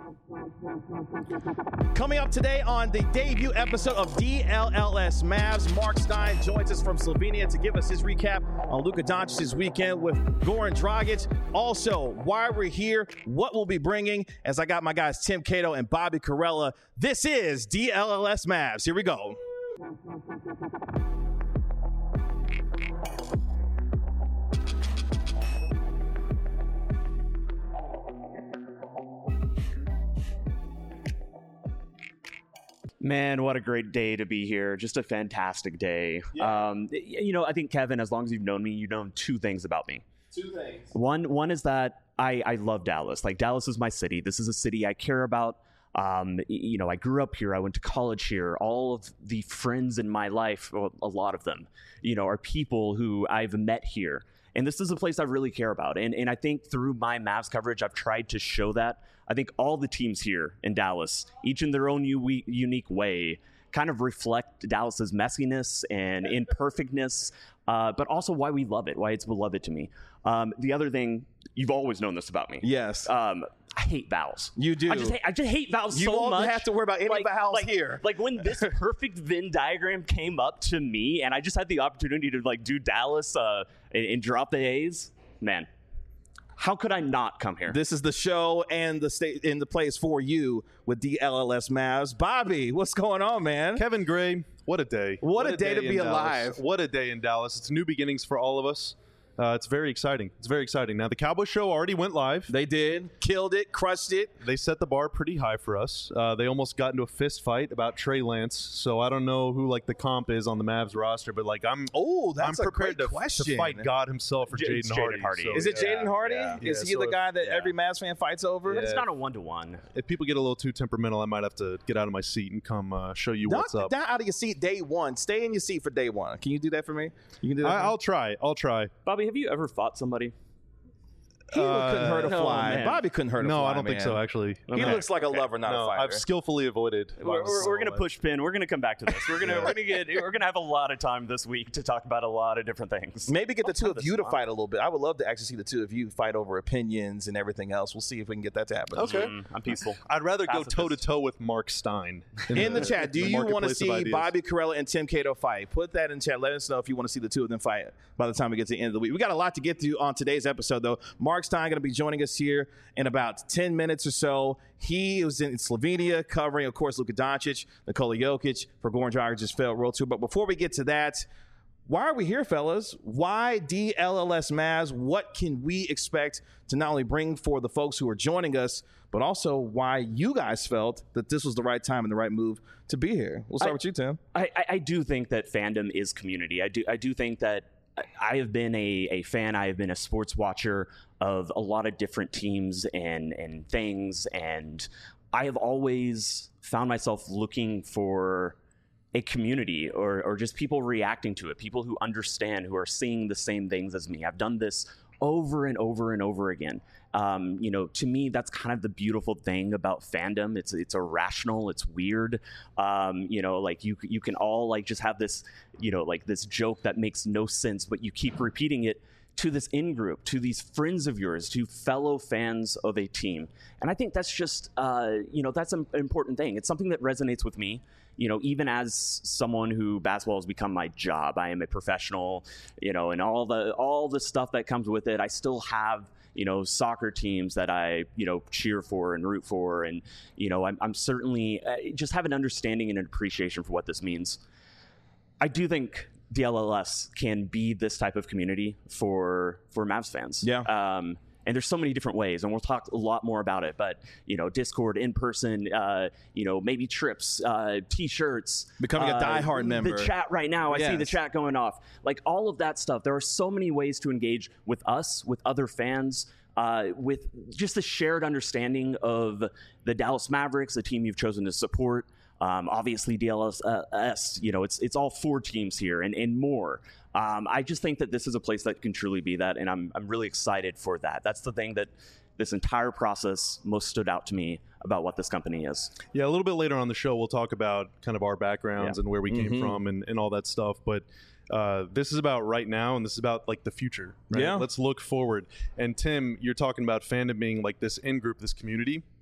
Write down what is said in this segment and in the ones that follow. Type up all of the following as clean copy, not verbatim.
Coming up today on the debut episode of DLLS Mavs, Mark Stein joins us from Slovenia to give us his recap on Luka Doncic's weekend with Goran Dragic. Also, why we're here, what we'll be bringing, as I got my guys Tim Cato and Bobby Karalla. This is DLLS Mavs. Here we go. Man, what a great day to be here. Just a fantastic day. Yeah. I think, Kevin, as long as you've known me, you know two things about me. Two things. One is that I love Dallas. Like, Dallas is my city. This is a city I care about. I grew up here. I went to college here. All of the friends in my life, well, a lot of them, are people who I've met here. And this is a place I really care about. And I think through my Mavs coverage, I've tried to show that. I think all the teams here in Dallas, each in their own unique way, kind of reflect Dallas's messiness and imperfectness, but also why we love it, why it's beloved to me. The other thing, you've always known this about me. Yes. I hate vowels. You do. I just hate vowels so much. You won't have to worry about any vowels here. Like when this perfect Venn diagram came up to me, and I just had the opportunity to do Dallas and drop the A's, man. How could I not come here? This is the show and the state in the place for you with DLLS Mavs. Bobby, what's going on, man? Kevin Gray, what a day. What a day to be alive. What a day in Dallas. It's new beginnings for all of us. It's very exciting. It's very exciting. Now, the Cowboy Show already went live. They did. Killed it. Crushed it. They set the bar pretty high for us. They almost got into a fist fight about Trey Lance. So I don't know who the comp is on the Mavs roster, but I'm prepared to fight God himself for Jaden Hardy. So, is it Jaden Hardy? Yeah. Is he the guy that every Mavs fan fights over? But it's not a 1-to-1. If people get a little too temperamental, I might have to get out of my seat and come show you what's up. Not out of your seat day one. Stay in your seat for day one. Can you do that for me? You can do that. I'll try. Bobby, have you ever fought somebody? He couldn't hurt a fly. Bobby couldn't hurt a fly. No, I don't think so, actually. He looks like a lover, not a fighter. I've skillfully avoided. We're going to push pin. We're going to come back to this. We're going to have a lot of time this week to talk about a lot of different things. Maybe get the two of you to fight a little bit. I would love to actually see the two of you fight over opinions and everything else. We'll see if we can get that to happen. Okay. I'm peaceful. I'd rather go toe-to-toe with Mark Stein. In the chat, do you want to see Bobby Karalla and Tim Cato fight? Put that in chat. Let us know if you want to see the two of them fight by the time we get to the end of the week. We got a lot to get to on today's episode, though. Mark Stein going to be joining us here in about 10 minutes or so. He was in Slovenia covering, of course, Luka Doncic, Nikola Jokic for Goran Dragic's failed World Tour. But before we get to that, why are we here, fellas? Why DLLS Mavs? What can we expect to not only bring for the folks who are joining us, but also why you guys felt that this was the right time and the right move to be here? We'll start with you, Tim. I do think that fandom is community. I do think that I have been a fan. I have been a sports watcher of a lot of different teams and things. And I have always found myself looking for a community or just people reacting to it, people who understand, who are seeing the same things as me. I've done this over and over and over again. To me, that's kind of the beautiful thing about fandom. It's irrational. It's weird. You can all just have this, this joke that makes no sense, but you keep repeating it to this in-group, to these friends of yours, to fellow fans of a team. And I think that's just, that's an important thing. It's something that resonates with me. Even as someone who basketball has become my job, I am a professional, and all the stuff that comes with it. I still have, soccer teams that I, cheer for and root for. And, I'm certainly just have an understanding and an appreciation for what this means. I do think DLLS can be this type of community for Mavs fans. Yeah. And there's so many different ways, and we'll talk a lot more about it. But, Discord, in person, maybe trips, T-shirts. Becoming a diehard member. The chat right now, I see the chat going off. All of that stuff. There are so many ways to engage with us, with other fans, with just the shared understanding of the Dallas Mavericks, the team you've chosen to support. Obviously, DLS, it's all four teams here and more. I just think that this is a place that can truly be that, and I'm really excited for that. That's the thing that this entire process most stood out to me about what this company is. Yeah, a little bit later on the show, we'll talk about kind of our backgrounds and where we came from and all that stuff. But this is about right now, and this is about the future. Right? Yeah. Let's look forward. And Tim, you're talking about fandom being this in-group, this community.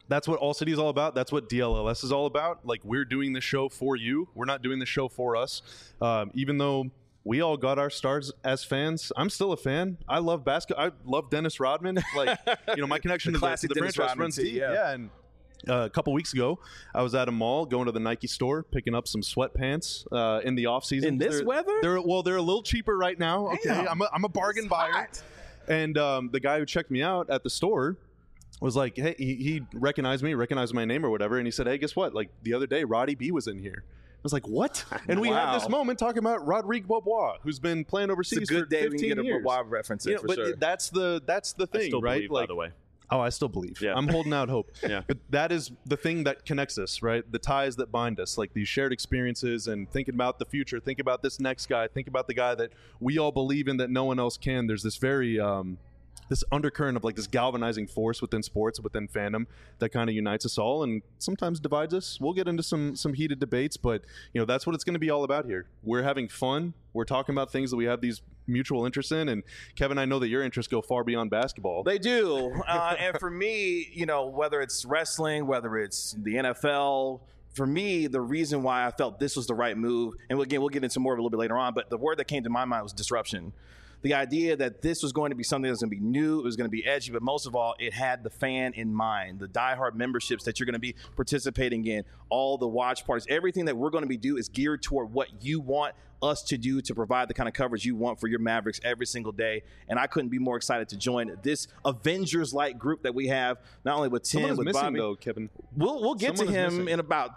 that's what All City is all about. That's what DLLS is all about. Like, we're doing the show for you. We're not doing the show for us. Even though we all got our stars as fans, I'm still a fan. I love basketball. I love Dennis Rodman. Like, my connection to the franchise runs deep. Yeah. And a couple weeks ago, I was at a mall going to the Nike store, picking up some sweatpants in the off season. In this weather? They're a little cheaper right now. Okay, I'm a bargain buyer. And the guy who checked me out at the store was like, hey, he recognized me, recognized my name or whatever, and he said, hey, guess what? Like, the other day, Roddy B was in here. I was like, what? And we had this moment talking about Rodrigue Beaubois, who's been playing overseas it's a good for day 15 we can get years. a Beaubois reference in, for but sure. That's the thing, I still right? Believe, by the way. Oh, I still believe. Yeah. I'm holding out hope. Yeah. But that is the thing that connects us, right? The ties that bind us, like these shared experiences and thinking about the future, think about this next guy, think about the guy that we all believe in that no one else can. There's this very this undercurrent of like this galvanizing force within sports, within fandom that kind of unites us all and sometimes divides us. We'll get into some heated debates, but that's what it's going to be all about here. We're having fun. We're talking about things that we have these mutual interests in. And Kevin, I know that your interests go far beyond basketball. They do. And for me, whether it's wrestling, whether it's the NFL, for me, the reason why I felt this was the right move, and again, we'll get into more of it a little bit later on, but the word that came to my mind was disruption. The idea that this was going to be something that was going to be new, it was going to be edgy, but most of all, it had the fan in mind, the diehard memberships that you're going to be participating in, all the watch parties, everything that we're going to be doing is geared toward what you want us to do to provide the kind of coverage you want for your Mavericks every single day. And I couldn't be more excited to join this Avengers-like group that we have, not only with Tim, Someone is with missing, Bobby. though, Kevin. We'll get to him in about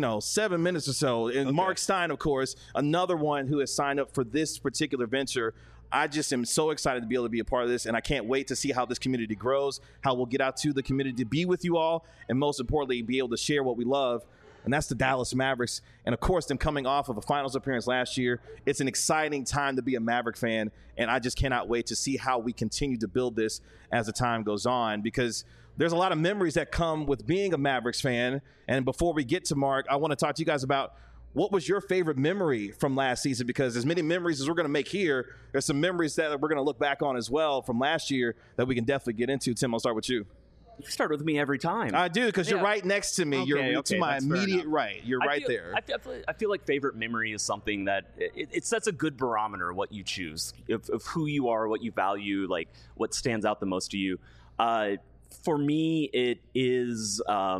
7 minutes or so. And okay. Mark Stein, of course, another one who has signed up for this particular venture. I just am so excited to be able to be a part of this, and I can't wait to see how this community grows, how we'll get out to the community to be with you all, and most importantly, be able to share what we love, and that's the Dallas Mavericks. And, of course, them coming off of a finals appearance last year, it's an exciting time to be a Maverick fan, and I just cannot wait to see how we continue to build this as the time goes on, because there's a lot of memories that come with being a Mavericks fan. And before we get to Mark, I want to talk to you guys about what was your favorite memory from last season? Because as many memories as we're going to make here, there's some memories that we're going to look back on as well from last year that we can definitely get into. Tim, I'll start with you. You start with me every time. I do, because you're right next to me. You're to my immediate right. You're right there. I feel like favorite memory is something that it sets a good barometer what you choose, of who you are, what you value, like what stands out the most to you. For me, it is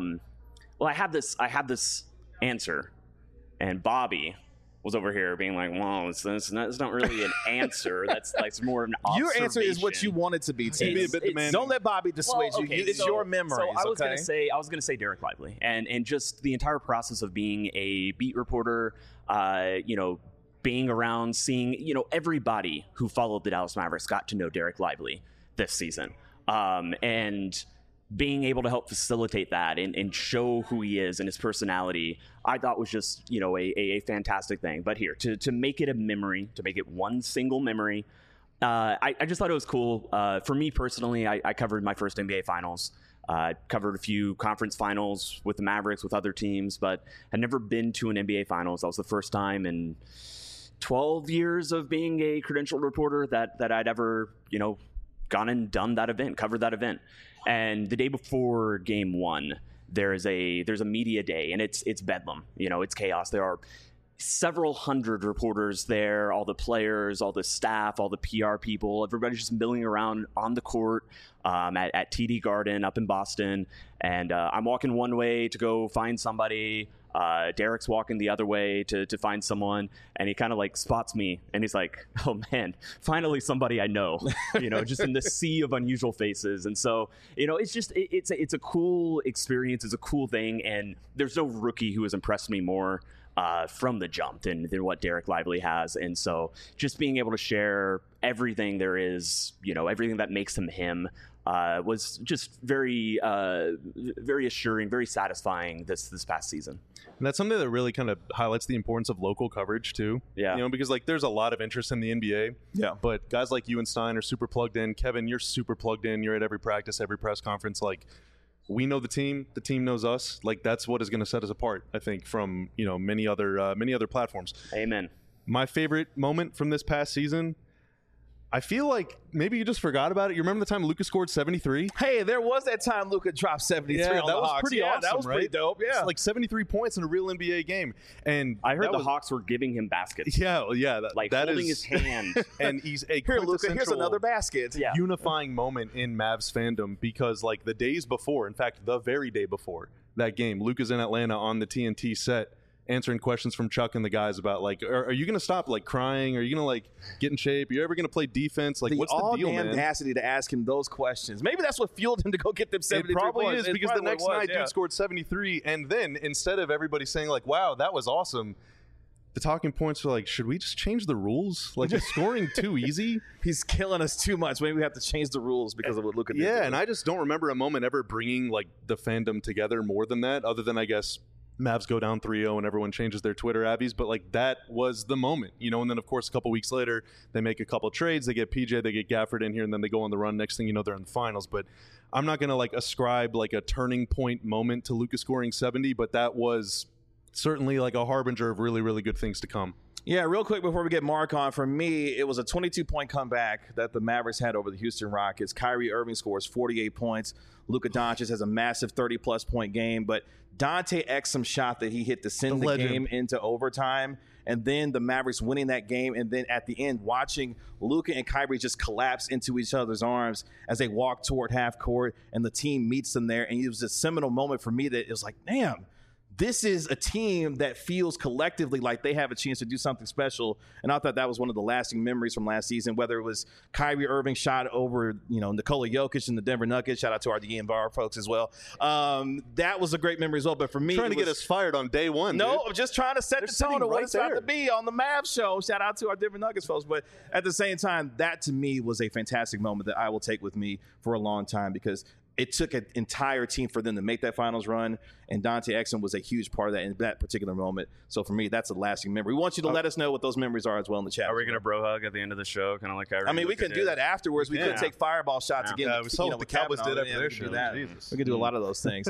I have this answer. And Bobby was over here being like, well, it's not really an answer. That's like more of an observation. Your answer is what you want it to be. Don't let Bobby dissuade you. It's your memories. So I was gonna say Derek Lively, and just the entire process of being a beat reporter, being around, seeing, everybody who followed the Dallas Mavericks got to know Derek Lively this season, and being able to help facilitate that and show who he is and his personality, I thought was just, a fantastic thing. But here, to make it a memory, to make it one single memory, I just thought it was cool. For me personally, I covered my first NBA Finals, covered a few conference finals with the Mavericks, with other teams, but had never been to an NBA Finals. That was the first time in 12 years of being a credentialed reporter that I'd ever, gone and done that event, covered that event. And the day before game one, there's a media day, and it's bedlam. It's chaos. There are several hundred reporters there, all the players, all the staff, all the PR people. Everybody's just milling around on the court at TD Garden up in Boston. And I'm walking one way to go find somebody. Derek's walking the other way to find someone, and he kind of like spots me, and he's like, oh man, finally somebody I know, just in the sea of unusual faces. And so, it's just, it's a cool experience. It's a cool thing. And there's no rookie who has impressed me more from the jump than what Derek Lively has. And so just being able to share everything there is, everything that makes him him, was just very, very assuring, very satisfying this past season. And that's something that really kind of highlights the importance of local coverage too. Yeah. Because like there's a lot of interest in the NBA. Yeah. But guys like you and Stein are super plugged in. Kevin, you're super plugged in. You're at every practice, every press conference. Like, we know the team knows us. Like, that's what is going to set us apart, I think, from many other platforms. Amen. My favorite moment from this past season, I feel like maybe you just forgot about it. You remember the time Luka scored 73? Hey, there was that time Luka dropped 73 on the Hawks. That was pretty awesome, that was pretty dope. Yeah, it's like 73 points in a real NBA game. And I heard the Hawks were giving him baskets. Yeah. That holding his hand. And he's a here, Luka, here's another basket. Yeah. Unifying moment in Mavs fandom, because like the days before, in fact, the very day before that game, Luka's in Atlanta on the TNT set, answering questions from Chuck and the guys about like, are you going to stop like crying? Are you going to like get in shape? Are you ever going to play defense? Like, what's the deal, man? The audacity to ask him those questions. Maybe that's what fueled him to go get them 73 points. It probably is, because the next night dude scored 73, and then instead of everybody saying like, wow, that was awesome, the talking points are like, should we just change the rules? Like, is scoring too easy? He's killing us too much. Maybe we have to change the rules because of what Luka did. Yeah, and I just don't remember a moment ever bringing like the fandom together more than that, other than I guess Mavs go down 3-0 and everyone changes their Twitter abbeys, but like that was the moment, and then of course a couple weeks later they make a couple trades, they get PJ, they get Gafford in here, and then they go on the run. Next thing you know, they're in the finals. But I'm not going to like ascribe like a turning point moment to Luka scoring 70, but that was certainly like a harbinger of really, really good things to come. Yeah, real quick before we get Mark on, for me, it was a 22-point comeback that the Mavericks had over the Houston Rockets. Kyrie Irving scores 48 points. Luka Doncic has a massive 30-plus point game, but Dante Exum shot that he hit to send the game into overtime, and then the Mavericks winning that game, and then at the end, watching Luka and Kyrie just collapse into each other's arms as they walk toward half court, and the team meets them there, and it was a seminal moment for me that it was like, damn, this is a team that feels collectively like they have a chance to do something special. And I thought that was one of the lasting memories from last season, whether it was Kyrie Irving shot over, Nikola Jokic and the Denver Nuggets. Shout out to our DNVR folks as well. That was a great memory as well. But for me, trying to get us fired on day one. No, I'm just trying to set the tone of what it's about to be on the Mavs show. Shout out to our Denver Nuggets folks. But at the same time, that to me was a fantastic moment that I will take with me for a long time, because it took an entire team for them to make that finals run, and Dante Exum was a huge part of that in that particular moment. So for me, that's a lasting memory. We want you to let us know what those memories are as well in the chat. Are we going to bro hug at the end of the show, kind of like Kyrie? I mean, we can do that afterwards. We could take fireball shots again. We saw what the Cowboys did after their show. We can do a lot of those things.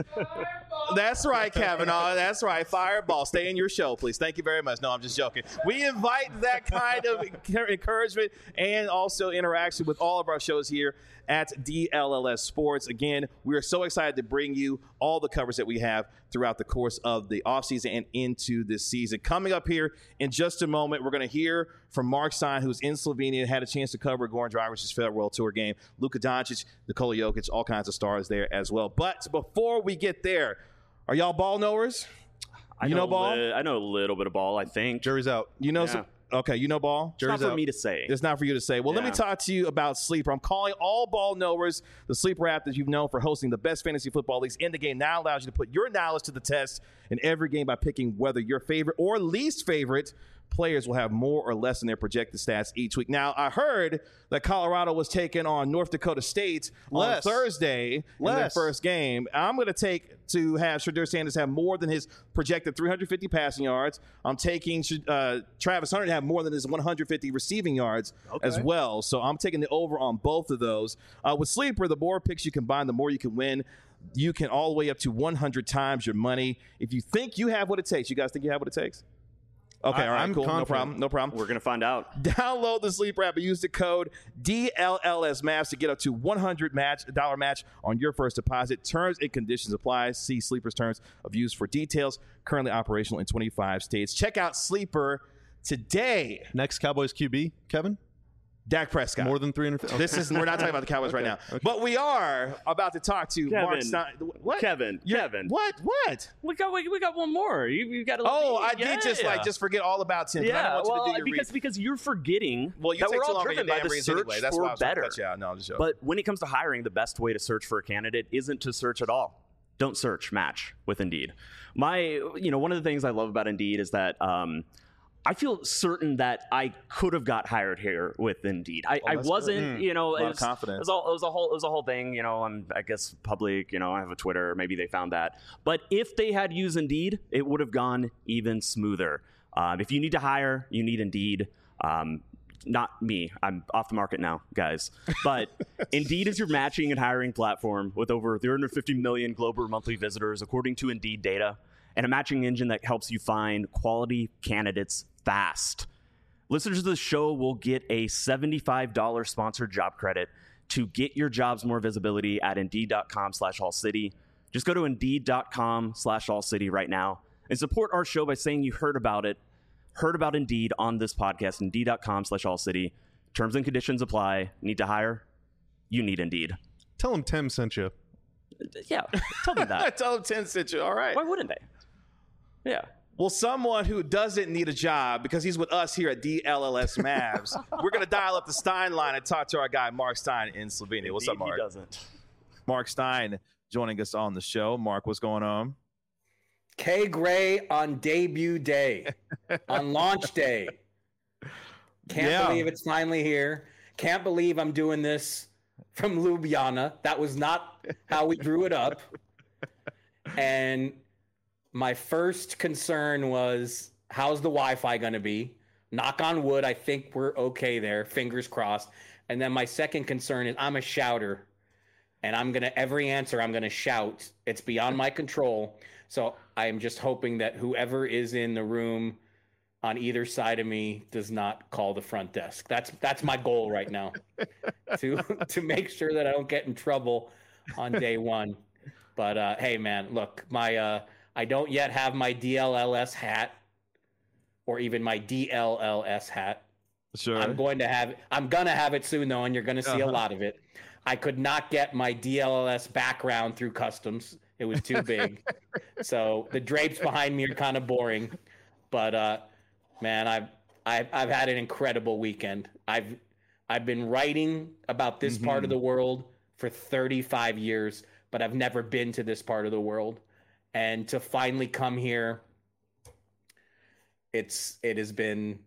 That's right, Kavanaugh. That's right. Fireball. Stay in your show, please. Thank you very much. No, I'm just joking. We invite that kind of encouragement and also interaction with all of our shows here at DLLS Sports. Again, we are so excited to bring you all the coverage that we have throughout the course of the offseason and into this season. Coming up here in just a moment, we're going to hear from Mark Stein, who's in Slovenia, had a chance to cover Goran Dragic's farewell tour game, Luka Doncic, Nikola Jokic, all kinds of stars there as well. But before we get there, are y'all ball knowers? I know ball? I know a little bit of ball, I think. Jury's out. Okay, you know ball? It's not for me to say. It's not for you to say. Well, let me talk to you about Sleeper. I'm calling all ball knowers. The Sleeper app that you've known for hosting the best fantasy football leagues in the game now allows you to put your knowledge to the test in every game by picking whether your favorite or least favorite players will have more or less in their projected stats each week. Now, I heard that Colorado was taking on North Dakota State on Thursday in their first game. I'm going to take to have Shedeur Sanders have more than his projected 350 passing yards. I'm taking Travis Hunter to have more than his 150 receiving yards as well. So I'm taking the over on both of those. With Sleeper, the more picks you combine, the more you can win. You can all the way up to 100 times your money. If you think you have what it takes, you guys think you have what it takes? Okay, all right, I'm cool. confident. No problem. We're going to find out. Download the Sleeper app and use the code DLLSMAVS to get up to $100 match on your first deposit. Terms and conditions apply. See Sleeper's terms of use for details. Currently operational in 25 states. Check out Sleeper today. Next Cowboys QB, Kevin? Dak Prescott. More than 350. We're not talking about the Cowboys right now. Okay. But we are about to talk to Mark Stein. What? Kevin. What? We got one more. You got I did just forget all about Tim. Yeah, because you're forgetting that we're all driven by the search for better. No, I'm just joking. But when it comes to hiring, the best way to search for a candidate isn't to search at all. Don't search, match with Indeed. One of the things I love about Indeed is that I feel certain that I could have got hired here with Indeed. I wasn't, it was confidence. It was a whole thing. I'm, I guess, public. I have a Twitter. Maybe they found that. But if they had used Indeed, it would have gone even smoother. If you need to hire, you need Indeed. Not me. I'm off the market now, guys. But Indeed is your matching and hiring platform with over 350 million global monthly visitors, according to Indeed data, and a matching engine that helps you find quality candidates fast. Listeners of the show will get a $75 sponsored job credit to get your jobs more visibility at Indeed.com/AllCity. Just go to Indeed.com/AllCity right now and support our show by saying you heard about Indeed on this podcast. Indeed.com/AllCity. Terms and conditions apply. Need to hire? You need Indeed. Tell them Tim sent you. Yeah, tell them that. Tell them Tim sent you. All right. Why wouldn't they? Yeah. Well, someone who doesn't need a job, because he's with us here at DLLS Mavs, we're going to dial up the Stein line and talk to our guy, Mark Stein in Slovenia. What's up, Mark? He doesn't. Mark Stein joining us on the show. Mark, what's going on? K. Gray on debut day, on launch day. Can't believe it's finally here. Can't believe I'm doing this from Ljubljana. That was not how we drew it up. And my first concern was, how's the Wi-Fi going to be? Knock on wood, I think we're okay there. Fingers crossed. And then my second concern is, I'm a shouter. And every answer I'm going to shout. It's beyond my control. So I am just hoping that whoever is in the room on either side of me does not call the front desk. That's my goal right now, to make sure that I don't get in trouble on day one. But hey, man, look, I don't yet have my DLLS hat, or even my DLLS hat. Sure. I'm gonna have it soon though, and you're gonna see a lot of it. I could not get my DLLS background through customs. It was too big. So the drapes behind me are kind of boring. But man, I've had an incredible weekend. I've been writing about this part of the world for 35 years, but I've never been to this part of the world. And to finally come here, it's been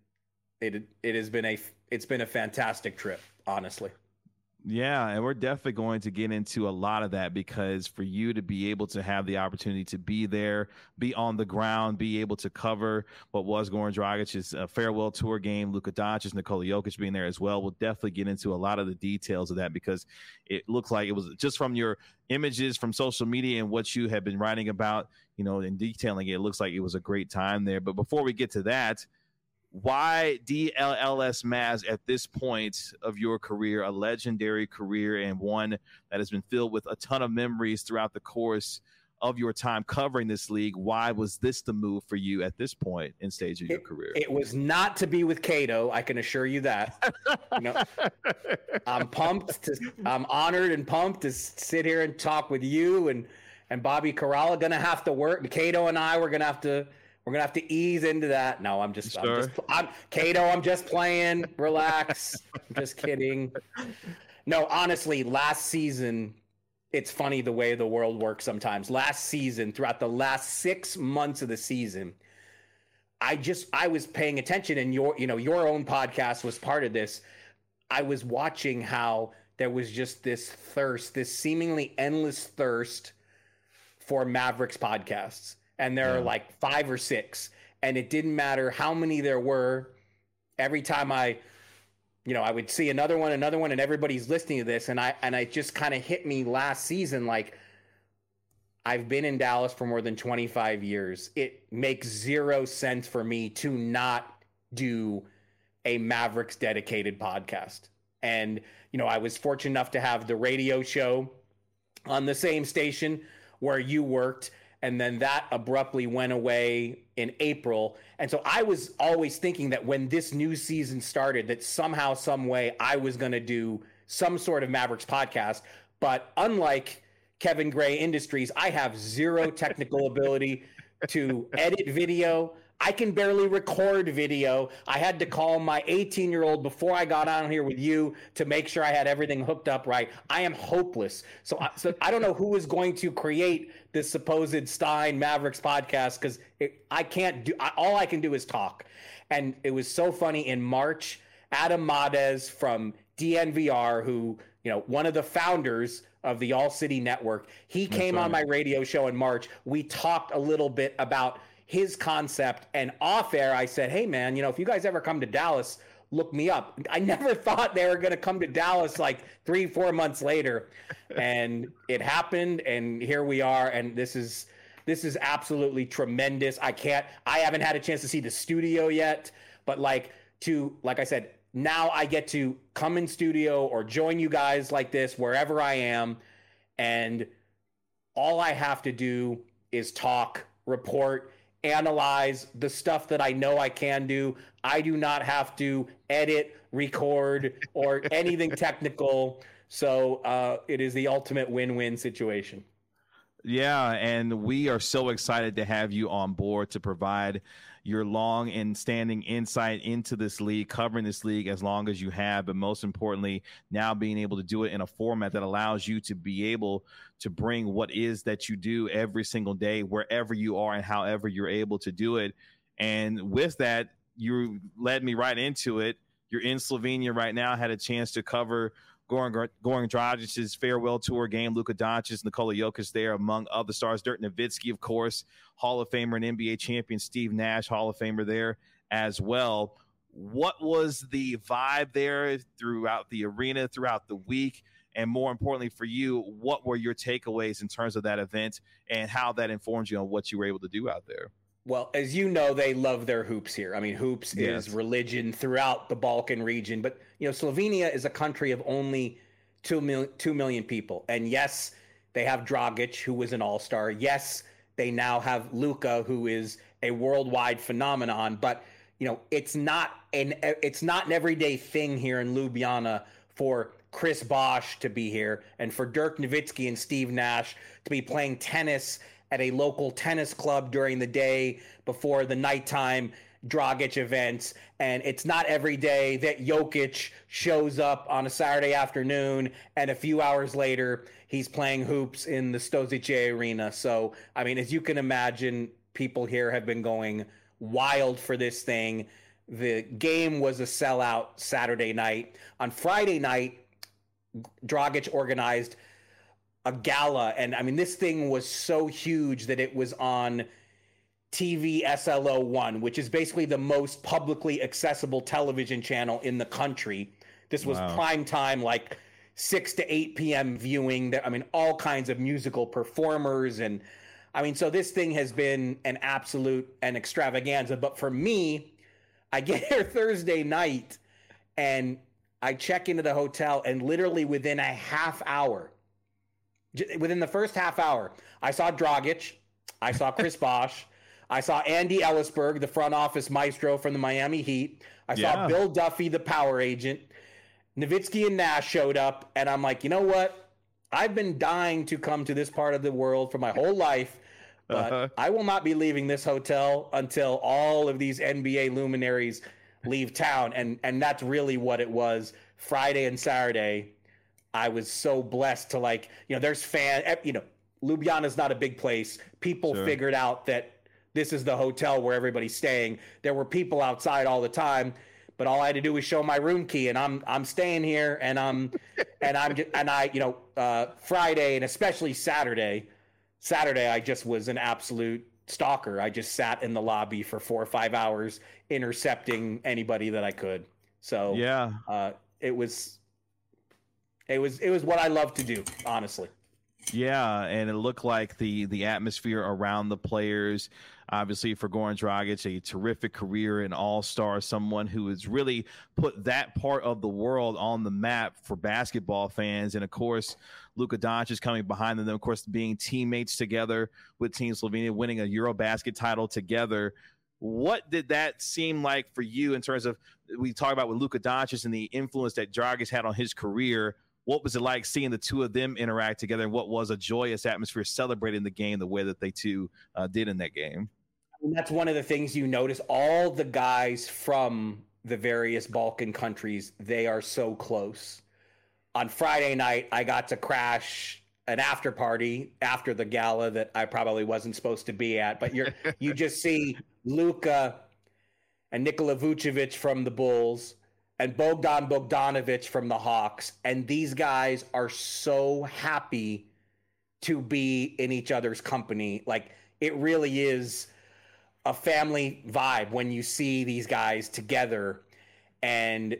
a fantastic trip, honestly. Yeah, and we're definitely going to get into a lot of that, because for you to be able to have the opportunity to be there, be on the ground, be able to cover what was Goran Dragic's farewell tour game, Luka Doncic, Nikola Jokic being there as well, we'll definitely get into a lot of the details of that, because it looked like it was just from your images from social media and what you have been writing about, and detailing it, it looks like it was a great time there. But before we get to that, why DLLS Mavs at this point of your career, a legendary career and one that has been filled with a ton of memories throughout the course of your time covering this league? Why was this the move for you at this point in stage of your career? It was not to be with Cato, I can assure you that. I'm honored and pumped to sit here and talk with you and Bobby Karalla. Gonna have to work. Cato and I, we're gonna have to ease into that. No, I'm Cato. I'm just playing. Relax. I'm just kidding. No, honestly, last season, it's funny the way the world works sometimes. Last season, throughout the last 6 months of the season, I was paying attention, and your own podcast was part of this. I was watching how there was just this seemingly endless thirst for Mavericks podcasts. And there are like 5 or 6, and it didn't matter how many there were. Every time I would see another one, and everybody's listening to this. And I just kind of hit me last season. Like, I've been in Dallas for more than 25 years. It makes zero sense for me to not do a Mavericks dedicated podcast. And, I was fortunate enough to have the radio show on the same station where you worked. And then that abruptly went away in April. And so I was always thinking that when this new season started, that somehow, some way, I was going to do some sort of Mavericks podcast. But unlike Kevin Gray Industries, I have zero technical ability to edit video. I can barely record video. I had to call my 18-year-old before I got on here with you to make sure I had everything hooked up right. I am hopeless. So I don't know who is going to create this supposed Stein Mavericks podcast, because I can't do. All I can do is talk. And it was so funny in March. Adam Madez from DNVR, who one of the founders of the All City Network, he came on my radio show in March. We talked a little bit about his concept, and off air I said, hey man, if you guys ever come to Dallas, look me up. I never thought they were going to come to Dallas like 3-4 months later, and it happened, and here we are. And this is absolutely tremendous. I haven't had a chance to see the studio yet, but like to, like I said, now I get to come in studio or join you guys like this wherever I am, and all I have to do is talk, report, analyze the stuff that I know I can do. I do not have to edit, record, or anything technical. So it is the ultimate win-win situation. Yeah, and we are so excited to have you on board to provide your long and standing insight into this league, covering this league as long as you have, but most importantly, now being able to do it in a format that allows you to be able to bring what is that you do every single day, wherever you are and however you're able to do it. And with that, you led me right into it. You're in Slovenia right now, had a chance to cover Goran Dragic's farewell tour game, Luka Doncic, Nikola Jokic there, among other stars. Dirk Nowitzki, of course, Hall of Famer and NBA champion. Steve Nash, Hall of Famer there as well. What was the vibe there throughout the arena, throughout the week? And more importantly for you, what were your takeaways in terms of that event and how that informs you on what you were able to do out there? Well, as you know, they love their hoops here. I mean, hoops is religion throughout the Balkan region. But, Slovenia is a country of only 2 million people. And yes, they have Dragic, who was an all-star. Yes, they now have Luka, who is a worldwide phenomenon. But, it's not an everyday thing here in Ljubljana for Chris Bosh to be here and for Dirk Nowitzki and Steve Nash to be playing tennis at a local tennis club during the day before the nighttime Dragic events. And it's not every day that Jokic shows up on a Saturday afternoon and a few hours later he's playing hoops in the Stožice Arena. So, I mean, as you can imagine, people here have been going wild for this thing. The game was a sellout Saturday night. On Friday night, Dragic organized a gala, and I mean, this thing was so huge that it was on TV SLO1, which is basically the most publicly accessible television channel in the country. This was prime time, like 6 to 8 p.m. viewing. I mean, all kinds of musical performers, and I mean, so this thing has been an absolute an extravaganza. But for me, I get here Thursday night, and I check into the hotel, and literally within a half hour, within the first half hour, I saw Dragic, I saw Chris Bosh, I saw Andy Ellisberg, the front office maestro from the Miami Heat. I saw Bill Duffy, the power agent. Nowitzki and Nash showed up, and I'm like, you know what? I've been dying to come to this part of the world for my whole life, but I will not be leaving this hotel until all of these NBA luminaries leave town. And that's really what it was. Friday and Saturday, I was so blessed to there's Ljubljana is not a big place. People figured out that this is the hotel where everybody's staying. There were people outside all the time, but all I had to do was show my room key, and I'm staying here, and Friday and especially Saturday, I just was an absolute stalker. I just sat in the lobby for 4 or 5 hours intercepting anybody that I could. So it was what I love to do, honestly. Yeah, and it looked like the atmosphere around the players, obviously for Goran Dragic, a terrific career, an all-star, someone who has really put that part of the world on the map for basketball fans. And, of course, Luka Doncic is coming behind them, of course, being teammates together with Team Slovenia, winning a Eurobasket title together. What did that seem like for you in terms of, we talk about with Luka Doncic and the influence that Dragic had on his career? What was it like seeing the two of them interact together, and what was a joyous atmosphere celebrating the game the way that they two did in that game? And that's one of the things you notice. All the guys from the various Balkan countries, they are so close. On Friday night, I got to crash an after party after the gala that I probably wasn't supposed to be at. But you just see Luka and Nikola Vucevic from the Bulls and Bogdan Bogdanovic from the Hawks. And these guys are so happy to be in each other's company. Like, it really is a family vibe when you see these guys together. And,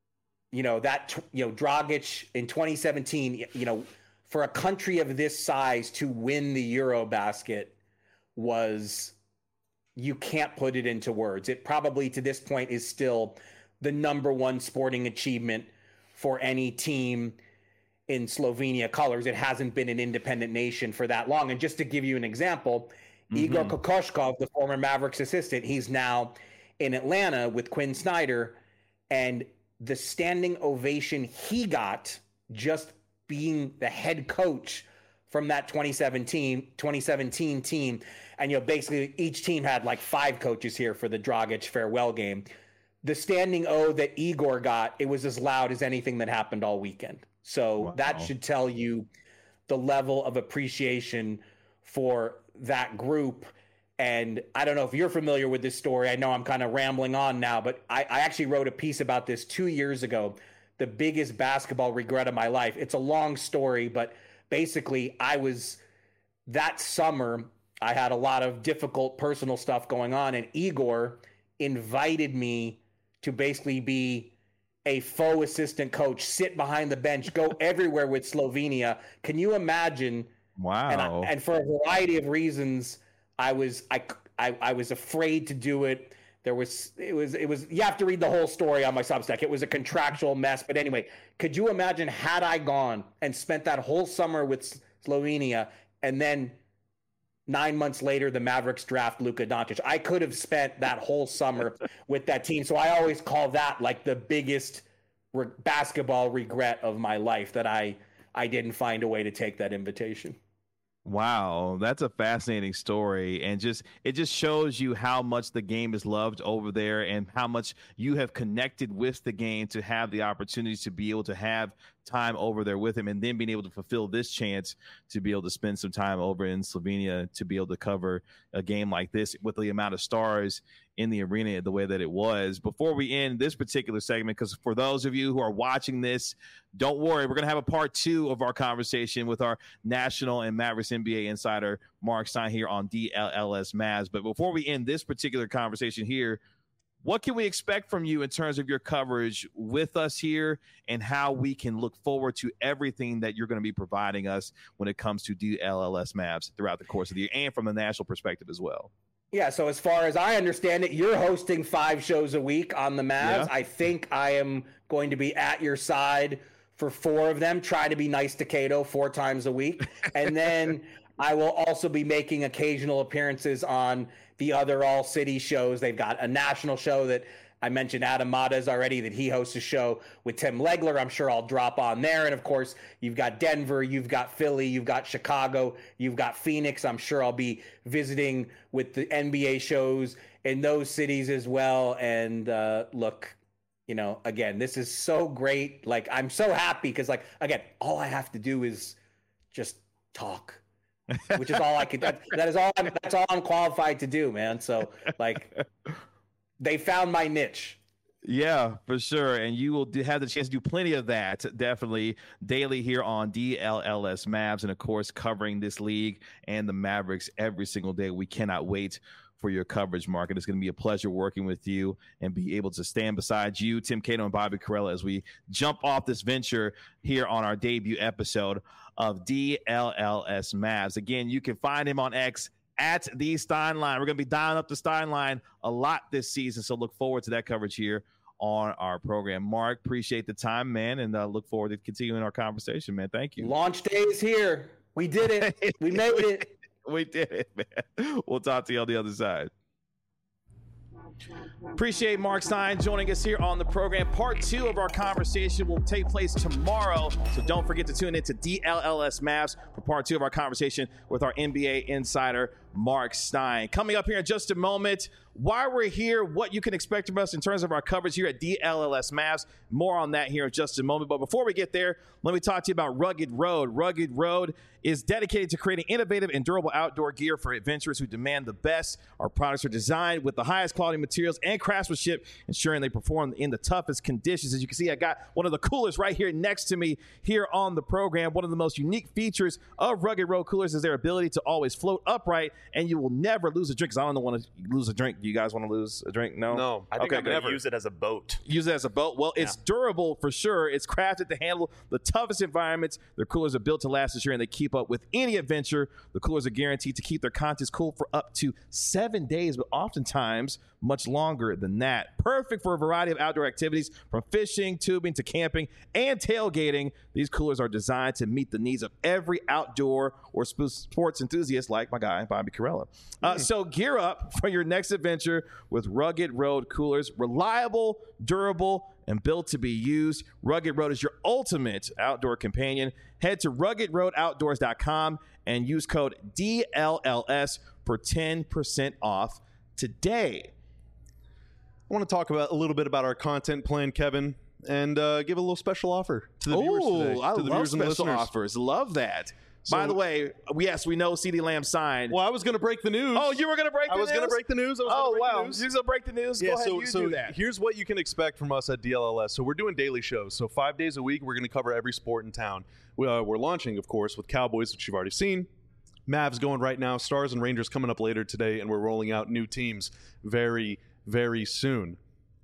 Dragic in 2017, for a country of this size to win the Eurobasket you can't put it into words. It probably to this point is still the number one sporting achievement for any team in Slovenia colors. It hasn't been an independent nation for that long. And just to give you an example, Igor Kokoshkov, the former Mavericks assistant, he's now in Atlanta with Quinn Snyder, and the standing ovation he got just being the head coach from that 2017 team. And, basically each team had like 5 coaches here for the Dragic farewell game. The standing O that Igor got, it was as loud as anything that happened all weekend. So that should tell you the level of appreciation for that group. And I don't know if you're familiar with this story. I know I'm kind of rambling on now, but I actually wrote a piece about this 2 years ago, the biggest basketball regret of my life. It's a long story, but basically that summer, I had a lot of difficult personal stuff going on, and Igor invited me to basically be a faux assistant coach, sit behind the bench, go everywhere with Slovenia. Can you imagine? Wow. And for a variety of reasons, I was afraid to do it. It was you have to read the whole story on my Substack. It was a contractual mess. But anyway, could you imagine had I gone and spent that whole summer with Slovenia, and then 9 months later, the Mavericks draft Luka Doncic? I could have spent that whole summer with that team. So I always call that like the biggest basketball regret of my life, that I didn't find a way to take that invitation. Wow, that's a fascinating story, and it just shows you how much the game is loved over there and how much you have connected with the game to have the opportunity to be able to have time over there with him, and then being able to fulfill this chance to be able to spend some time over in Slovenia to be able to cover a game like this with the amount of stars in the arena the way that it was. Before we end this particular segment, because for those of you who are watching this, don't worry, we're going to have a part 2 of our conversation with our national and Mavericks NBA insider Mark Stein here on DLLS Mavs. But before we end this particular conversation here, what can we expect from you in terms of your coverage with us here, and how we can look forward to everything that you're going to be providing us when it comes to DLLS Mavs throughout the course of the year, and from the national perspective as well? Yeah, so as far as I understand it, you're hosting 5 shows a week on the Mavs. Yeah. I think I am going to be at your side for 4 of them. Try to be nice to Cato 4 times a week. And then I will also be making occasional appearances on the other all-city shows. They've got a national show that I mentioned, Adam Matas already, that he hosts a show with Tim Legler. I'm sure I'll drop on there. And of course, you've got Denver, you've got Philly, you've got Chicago, you've got Phoenix. I'm sure I'll be visiting with the NBA shows in those cities as well. And look, again, this is so great. Like, I'm so happy because, like, again, all I have to do is just talk. Which is all I could. That's all I'm qualified to do, man. So, like, they found my niche. Yeah, for sure. And you will have the chance to do plenty of that, definitely, daily here on DLLS Mavs, and of course covering this league and the Mavericks every single day. We cannot wait for your coverage, Mark. And it's going to be a pleasure working with you and be able to stand beside you, Tim Cato, and Bobby Karalla as we jump off this venture here on our debut episode of DLLS Mavs. Again, you can find him on X at the Steinline. We're going to be dialing up the Steinline a lot this season, so look forward to that coverage here on our program. Mark, appreciate the time, man, and look forward to continuing our conversation, man. Thank you. Launch day is here. We did it. We made it. We did it, man. We'll talk to you on the other side. Appreciate Mark Stein joining us here on the program. Part 2 of our conversation will take place tomorrow, so don't forget to tune in to DLLS Mavs for part 2 of our conversation with our NBA insider, Mark Stein. Coming up here in just a moment, why we're here, what you can expect from us in terms of our coverage here at DLLS Mavs. More on that here in just a moment. But before we get there, let me talk to you about Rugged Road. Rugged Road is dedicated to creating innovative and durable outdoor gear for adventurers who demand the best. Our products are designed with the highest quality materials and craftsmanship, ensuring they perform in the toughest conditions. As you can see, I got one of the coolers right here next to me here on the program. One of the most unique features of Rugged Road coolers is their ability to always float upright and you will never lose a drink. Because I don't want to lose a drink. Do you guys want to lose a drink? No. I think I'm going to use it as a boat. Use it as a boat. Well, it's durable for sure. It's crafted to handle the toughest environments. Their coolers are built to last this year, and they keep up with any adventure. The coolers are guaranteed to keep their contents cool for up to 7 days, but oftentimes much longer than that. Perfect for a variety of outdoor activities, from fishing, tubing, to camping, and tailgating. These coolers are designed to meet the needs of every outdoor or sports enthusiast like my guy, Bobby Karalla. So gear up for your next adventure with Rugged Road coolers. Reliable, durable, and built to be used. Rugged Road is your ultimate outdoor companion. Head to ruggedroadoutdoors.com and use code DLLS for 10% off today. I want to talk a little bit about our content plan, Kevin, and give a little special offer to the viewers today. I love special offers. Love that. So, by the way, yes, we know CeeDee Lamb signed. Well, I was going to break the news. Oh, you were going to break the news? I was going to break the news. You're going to break the news? Yeah, Go ahead, so do that. Here's what you can expect from us at DLLS. So we're doing daily shows. So 5 days a week, we're going to cover every sport in town. We're launching, of course, with Cowboys, which you've already seen. Mavs going right now. Stars and Rangers coming up later today, and we're rolling out new teams very, very soon.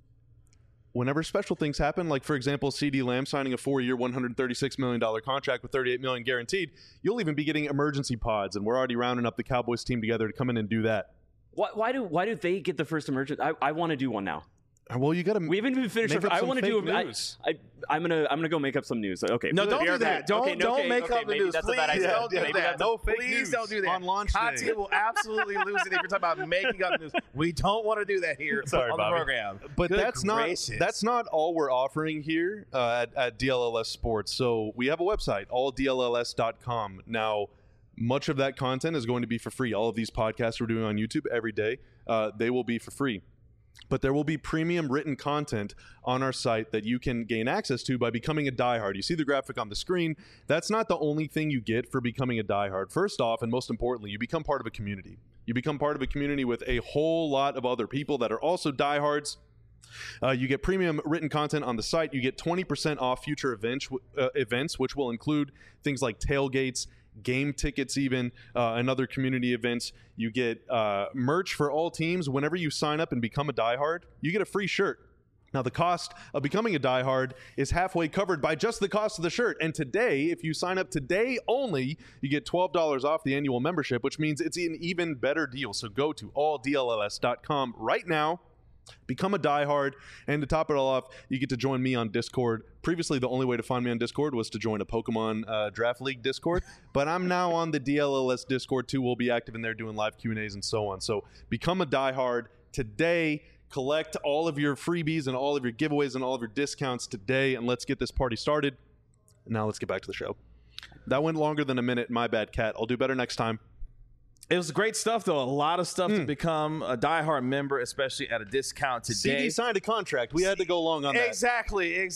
Whenever special things happen, like, for example, CeeDee Lamb signing a 4-year, $136 million contract with $38 million guaranteed, you'll even be getting emergency pods, and we're already rounding up the Cowboys team together to come in and do that. Why do they get the first emergency? I want to do one now. Well, you got to. We haven't even finished. I want to do. I'm gonna go make up some news. Okay. No, don't do that. Don't make up the news. That's a bad idea. Don't do that. No fake news. Please don't do that. On launch day. Conti will absolutely lose it if you're talking about making up news. We don't want to do that here on the program. But that's not all we're offering here at DLLS Sports. So we have a website, alldlls.com. Now, much of that content is going to be for free. All of these podcasts we're doing on YouTube every day, they will be for free. But there will be premium written content on our site that you can gain access to by becoming a diehard. You see the graphic on the screen. That's not the only thing you get for becoming a diehard. First off, and most importantly, you become part of a community. You become part of a community with a whole lot of other people that are also diehards. You get premium written content on the site. You get 20% off future events, which will include things like tailgates, game tickets, even and other community events. You get merch for all teams. Whenever you sign up and become a diehard, you get a free shirt. Now, the cost of becoming a diehard is halfway covered by just the cost of the shirt. And today, if you sign up today only, you get $12 off the annual membership, which means it's an even better deal. So go to alldlls.com right now. Become a diehard, and to top it all off, you get to join me on Discord. Previously, the only way to find me on Discord was to join a Pokemon Draft League Discord, but I'm now on the DLLS Discord too. We'll be active in there doing live Q&As and so on. So become a diehard today. Collect all of your freebies and all of your giveaways and all of your discounts today, and let's get this party started. Now let's get back to the show. That went longer than a minute. My bad, Kat. I'll do better next time. It was great stuff, though. A lot of stuff to become a diehard member, especially at a discount today. CeeDee signed a contract. We had to go long on that. Exactly.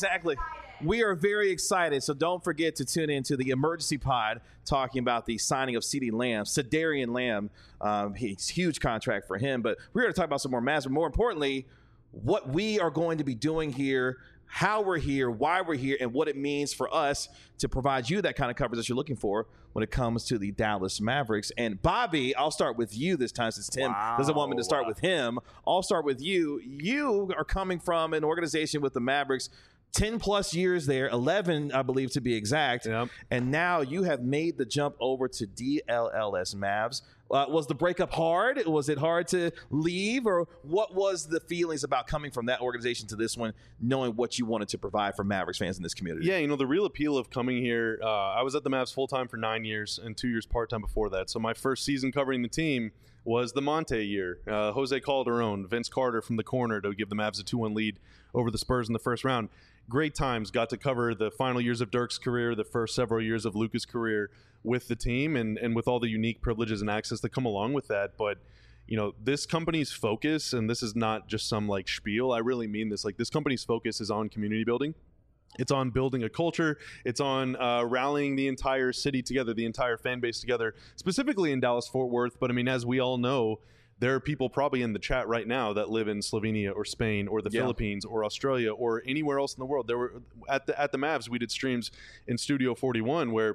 We are very excited, so don't forget to tune in to the emergency pod talking about the signing of CeeDee Lamb, Cedarian Lamb. He's a huge contract for him, but we're going to talk about some more Mavs, but more importantly, what we are going to be doing here, how we're here, why we're here, and what it means for us to provide you that kind of coverage that you're looking for when it comes to the Dallas Mavericks. And Bobby, I'll start with you this time since Tim doesn't want me to start with him. I'll start with you. You are coming from an organization with the Mavericks, 10 plus years there, 11, I believe, to be exact. Yep. And now you have made the jump over to DLLS Mavs. Was the breakup hard? Was it hard to leave? Or what was the feelings about coming from that organization to this one, knowing what you wanted to provide for Mavericks fans in this community? Yeah, the real appeal of coming here, I was at the Mavs full-time for 9 years and 2 years part-time before that. So my first season covering the team was the Monte year. Jose Calderon, Vince Carter from the corner to give the Mavs a 2-1 lead over the Spurs in the first round. Great times. Got to cover the final years of Dirk's career, the first several years of Luka's career with the team, and with all the unique privileges and access that come along with that. But this company's focus, and this is not just some spiel, I really mean this, this company's focus is on community building. It's on building a culture. It's on rallying the entire city together, the entire fan base together, specifically in Dallas-Fort Worth. But as we all know, there are people probably in the chat right now that live in Slovenia or Spain or the Philippines or Australia or anywhere else in the world. There were at the Mavs, we did streams in Studio 41 where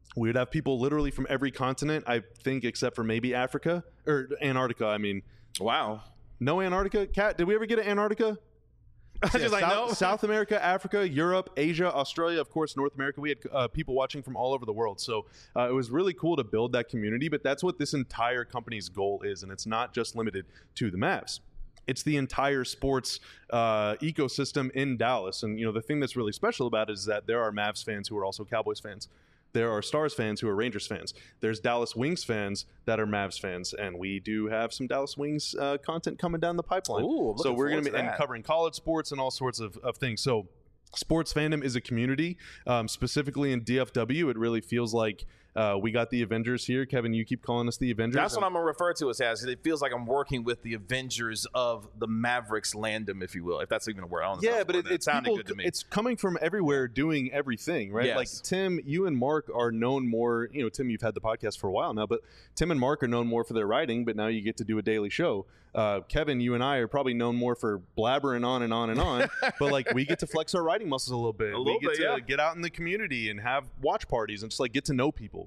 We would have people literally from every continent, I think, except for maybe Africa or Antarctica. I mean, wow. No Antarctica? Kat, did we ever get to Antarctica? Just like, no. South America, Africa, Europe, Asia, Australia, of course, North America. We had people watching from all over the world. So it was really cool to build that community. But that's what this entire company's goal is. And it's not just limited to the Mavs. It's the entire sports ecosystem in Dallas. And, the thing that's really special about it is that there are Mavs fans who are also Cowboys fans. There are Stars fans who are Rangers fans. There's Dallas Wings fans that are Mavs fans, and we do have some Dallas Wings content coming down the pipeline. Ooh, so we're going to be covering college sports and all sorts of things. So sports fandom is a community. Specifically in DFW, it really feels like we got the Avengers here. Kevin, you keep calling us the Avengers. That's what I'm going to refer to us as. It feels like I'm working with the Avengers of the Mavericks landom, if you will, if that's even a word. Yeah, but it sounded good to me. It's coming from everywhere doing everything, right? Yes. Like Tim, you and Mark are known more, Tim, you've had the podcast for a while now, but Tim and Mark are known more for their writing, but now you get to do a daily show. Kevin, you and I are probably known more for blabbering on and on and on, but like we get to flex our writing muscles a little bit. We get to get out in the community and have watch parties and just like get to know people,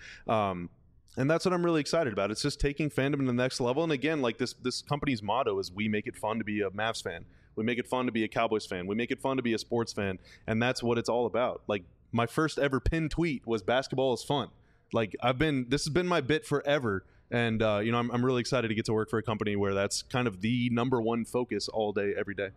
and that's what I'm really excited about. It's just taking fandom to the next level. And again, like this company's motto is we make it fun to be a Mavs fan. We make it fun to be a Cowboys fan. We make it fun to be a sports fan. And that's what it's all about. Like my first ever pinned tweet was basketball is fun. Like this has been my bit forever. And, I'm really excited to get to work for a company where that's kind of the number one focus all day, every day.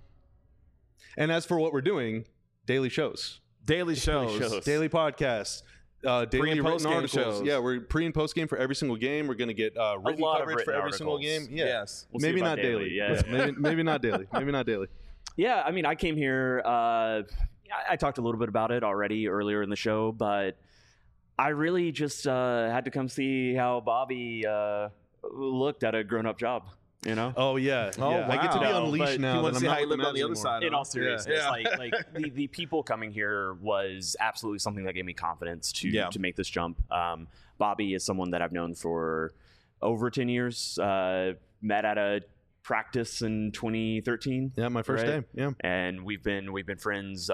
And as for what we're doing, daily shows. Daily Daily podcasts. Daily written articles. Shows. Yeah, we're pre and post game for every single game. We're going to get written coverage for every single game. Yeah. Yes. We'll maybe not daily. Yeah. Maybe not daily. Maybe not daily. Yeah, I mean, I came here. I talked a little bit about it already earlier in the show, but I really just had to come see how Bobby looked at a grown-up job. Oh yeah. Oh, yeah. Wow. I get to be unleashed now. You want to see how you lived on the other side. In all seriousness, like the people coming here was absolutely something that gave me confidence to make this jump. Bobby is someone that I've known for over 10 years. Met at a practice in 2013. Yeah, my first day. Yeah, and we've been friends.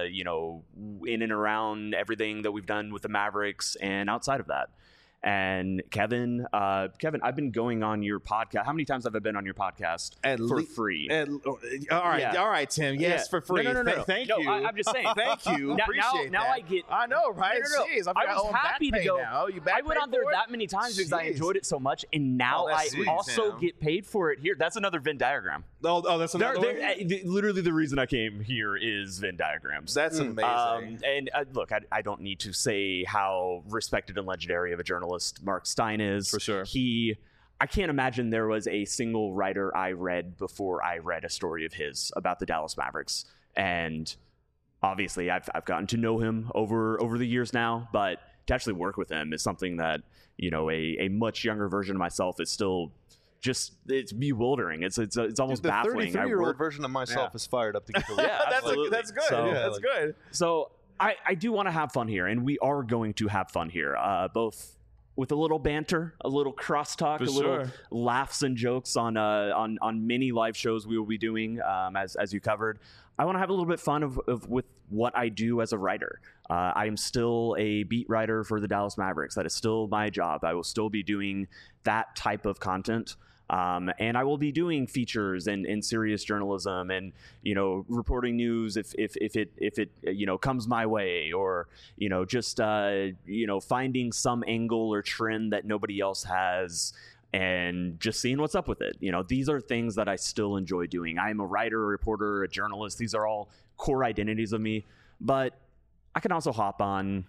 In and around everything that we've done with the Mavericks and outside of that. And Kevin, I've been going on your podcast. How many times have I been on your podcast for free? All right, Tim. Yes, for free. No. Thank you. I'm just saying. Thank you. Appreciate now I get. I know, right? No. I was happy to go. Now. I went on there that many times because I enjoyed it so much, and now I also get paid for it here. That's another Venn diagram. Oh, that's another one? Literally, the reason I came here is Venn diagrams. That's amazing. And look, I don't need to say how respected and legendary of a journalist Mark Stein is. For sure. I can't imagine there was a single writer I read before I read a story of his about the Dallas Mavericks. And obviously I've gotten to know him over the years now, but to actually work with him is something that, a much younger version of myself is still just, it's bewildering. It's almost baffling. The 33-year-old version of myself is fired up to get to work. Yeah, absolutely. That's good. That's good. So I do want to have fun here, and we are going to have fun here, both with a little banter, a little crosstalk, little laughs and jokes on many live shows we will be doing, as you covered. I want to have a little bit fun with what I do as a writer. I am still a beat writer for the Dallas Mavericks. That is still my job. I will still be doing that type of content. And I will be doing features and serious journalism and, reporting news if it comes my way, or, just, finding some angle or trend that nobody else has and just seeing what's up with it. These are things that I still enjoy doing. I'm a writer, a reporter, a journalist. These are all core identities of me, but I can also hop on,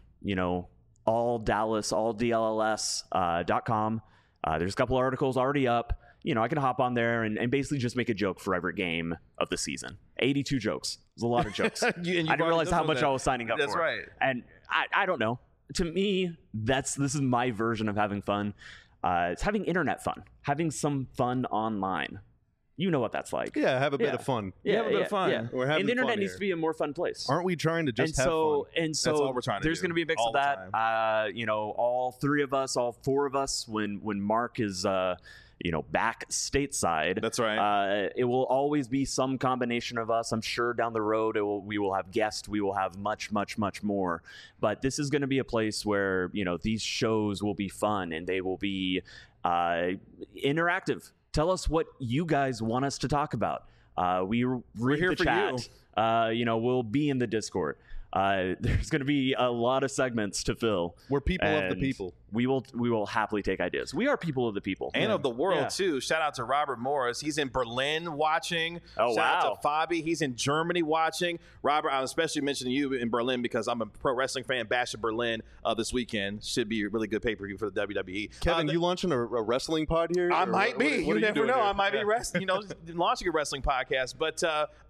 alldallas.com. There's a couple articles already up. I can hop on there and basically just make a joke for every game of the season. 82 jokes. There's a lot of jokes. I didn't realize how much I was signing up for. That's right. And I don't know. To me, this is my version of having fun. It's having internet fun, having some fun online. You know what that's like. Yeah, have a bit of fun. Yeah, have a bit of fun. Yeah. And the internet needs to be a more fun place. Aren't we trying to just have fun? And so that's all we're trying to there's do. going to be a mix all of that. All 3 of us, all 4 of us, when Mark is back stateside. That's right. It will always be some combination of us. I'm sure down the road we will have guests. We will have much, much, much more. But this is going to be a place where, these shows will be fun and they will be interactive. Tell us what you guys want us to talk about. We're here for chat. We'll be in the Discord. There's going to be a lot of segments to fill. We're people of the people. We will happily take ideas. We are people of the people and of the world too. Shout out to Robert Morris. He's in Berlin watching. Shout out to Fabi. He's in Germany watching. Robert, I'm especially mentioning you in Berlin because I'm a pro wrestling fan. Bash in Berlin this weekend should be a really good pay-per-view for the WWE. Kevin, you launching a wrestling pod here? I might be. You never know. I might be launching a wrestling podcast. But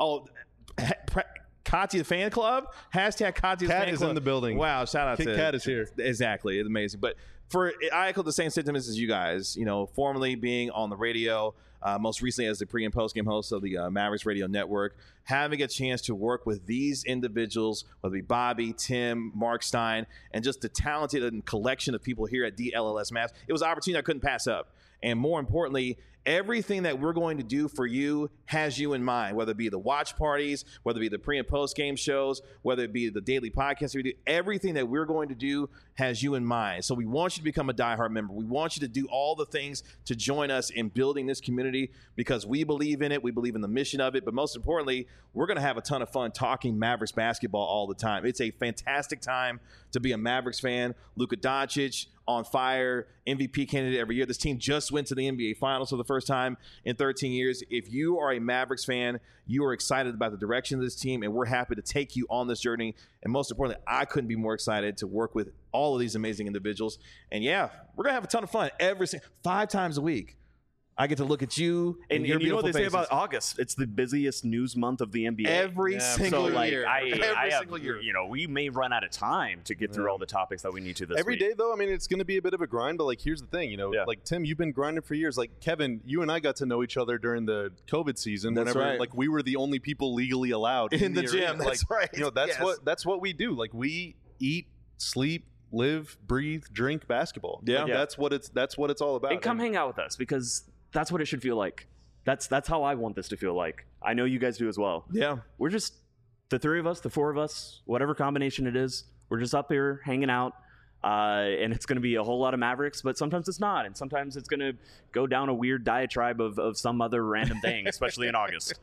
Katya fan club, hashtag Katya's Kat fan is club. In the building. Wow, shout out to Kat is here. Exactly, it's amazing. But I echo the same sentiments as you guys. Formerly being on the radio, most recently as the pre and post game host of the Mavericks Radio Network, having a chance to work with these individuals, whether it be Bobby, Tim, Mark Stein, and just the talented collection of people here at DLLS Mavs, it was an opportunity I couldn't pass up. And more importantly, everything that we're going to do for you has you in mind, whether it be the watch parties, whether it be the pre and post game shows, whether it be the daily podcast we do. Everything that we're going to do has you in mind. So we want you to become a diehard member. We want you to do all the things to join us in building this community because we believe in it. We believe in the mission of it. But most importantly, we're going to have a ton of fun talking Mavericks basketball all the time. It's a fantastic time to be a Mavericks fan. Luka Doncic on fire, MVP candidate every year. This team just went to the NBA Finals for the first time in 13 years. If you are a Mavericks fan, you are excited about the direction of this team, and we're happy to take you on this journey. And most importantly, I couldn't be more excited to work with all of these amazing individuals. And yeah, we're going to have a ton of fun 5 times a week. I get to look at you and your you know what they faces. Say about August? It's the busiest news month of the NBA. Every single year. Every single year. We may run out of time to get through all the topics that we need to this Every week. day, though, I mean, it's going to be a bit of a grind, but, here's the thing, like, Tim, you've been grinding for years. Like, Kevin, you and I got to know each other during the COVID season. That's right. Like, we were the only people legally allowed in the gym. That's right. That's what we do. Like, we eat, sleep, live, breathe, drink basketball. Yeah. That's what it's all about. And come hang out with us because that's what it should feel like. That's how I want this to feel like. I know you guys do as well. Yeah. We're just the 3 of us, the 4 of us, whatever combination it is. We're just up here hanging out. And it's going to be a whole lot of Mavericks, but sometimes it's not. And sometimes it's going to go down a weird diatribe of some other random thing, especially in August.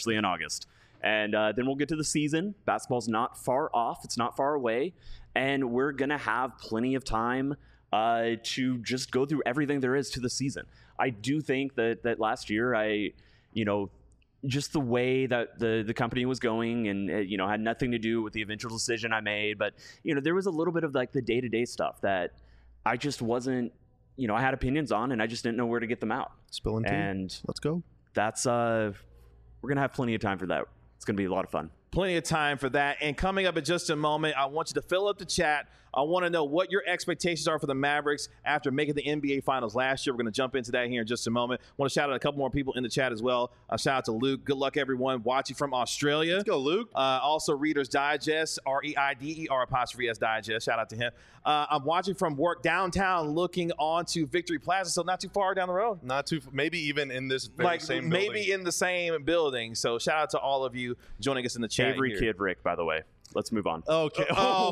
And then we'll get to the season. Basketball's not far off. It's not far away. And we're going to have plenty of time to just go through everything there is to the season. I do think that last year, just the way that the company was going and, had nothing to do with the eventual decision I made. But, there was a little bit of the day-to-day stuff that I just wasn't, I had opinions on and I just didn't know where to get them out. Spilling tea. And let's go. That's, we're going to have plenty of time for that. It's going to be a lot of fun. Plenty of time for that. And coming up in just a moment, I want you to fill up the chat. I want to know what your expectations are for the Mavericks after making the NBA Finals last year. We're going to jump into that here in just a moment. I want to shout out a couple more people in the chat as well. Shout out to Luke. Good luck, everyone, watching from Australia. Let's go, Luke. Also, Reader's Digest, REIDER' Digest. Shout out to him. I'm watching from work downtown, looking onto Victory Plaza, so not too far down the road. Not too, maybe even in this same building. Maybe in the same building. So shout out to all of you joining us in the chat. Avery Kid Rick, by the way. Let's move on. Okay.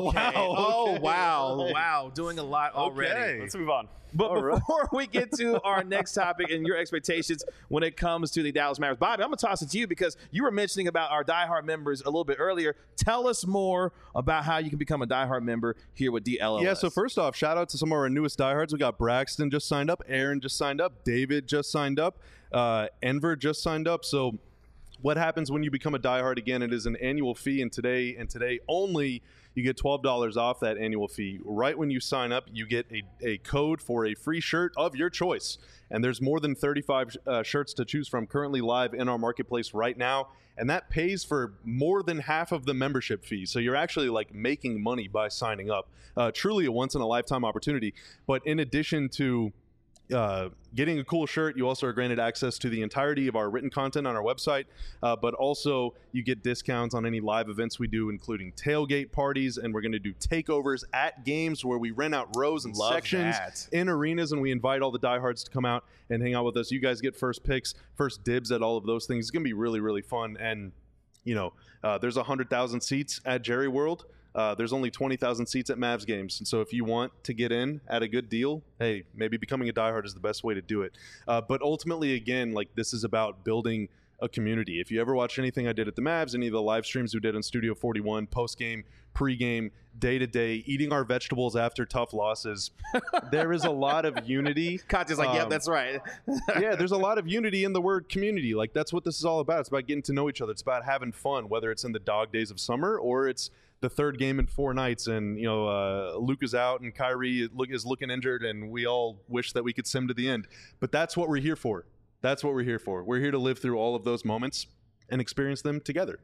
Wow. Doing a lot already. Okay. Let's move on. But before we get to our next topic and your expectations when it comes to the Dallas Mavericks, Bobby, I'm going to toss it to you because you were mentioning about our diehard members a little bit earlier. Tell us more about how you can become a diehard member here with DLLS. Yeah, so first off, shout out to some of our newest diehards. We got Braxton just signed up, Aaron just signed up, David just signed up, Enver just signed up. So what happens when you become a diehard? Again, it is an annual fee, and today only you get $12 off that annual fee. Right when you sign up, you get a code for a free shirt of your choice. And there's more than 35 shirts to choose from currently live in our marketplace right now. And that pays for more than half of the membership fee. So you're actually making money by signing up. Truly a once in a lifetime opportunity. But in addition to getting a cool shirt, you also are granted access to the entirety of our written content on our website, but also you get discounts on any live events we do, including tailgate parties, and we're going to do takeovers at games where we rent out rows and sections in arenas, and we invite all the diehards to come out and hang out with us. You guys get first picks, first dibs at all of those things. It's going to be really, really fun, and there's 100,000 seats at Jerry World. There's only 20,000 seats at Mavs games. And so if you want to get in at a good deal, hey, maybe becoming a diehard is the best way to do it. But ultimately, again, like, this is about building a community. If you ever watch anything I did at the Mavs, any of the live streams we did on Studio 41, post-game, pre-game, day-to-day, eating our vegetables after tough losses, there is a lot of unity. Katya's like, yep, that's right. Yeah, there's a lot of unity in the word community. Like, that's what this is all about. It's about getting to know each other. It's about having fun, whether it's in the dog days of summer or it's the third game in 4 nights, and Luke is out and Kyrie is looking injured, and we all wish that we could sim to the end. But that's what we're here for. That's what we're here for. We're here to live through all of those moments and experience them together.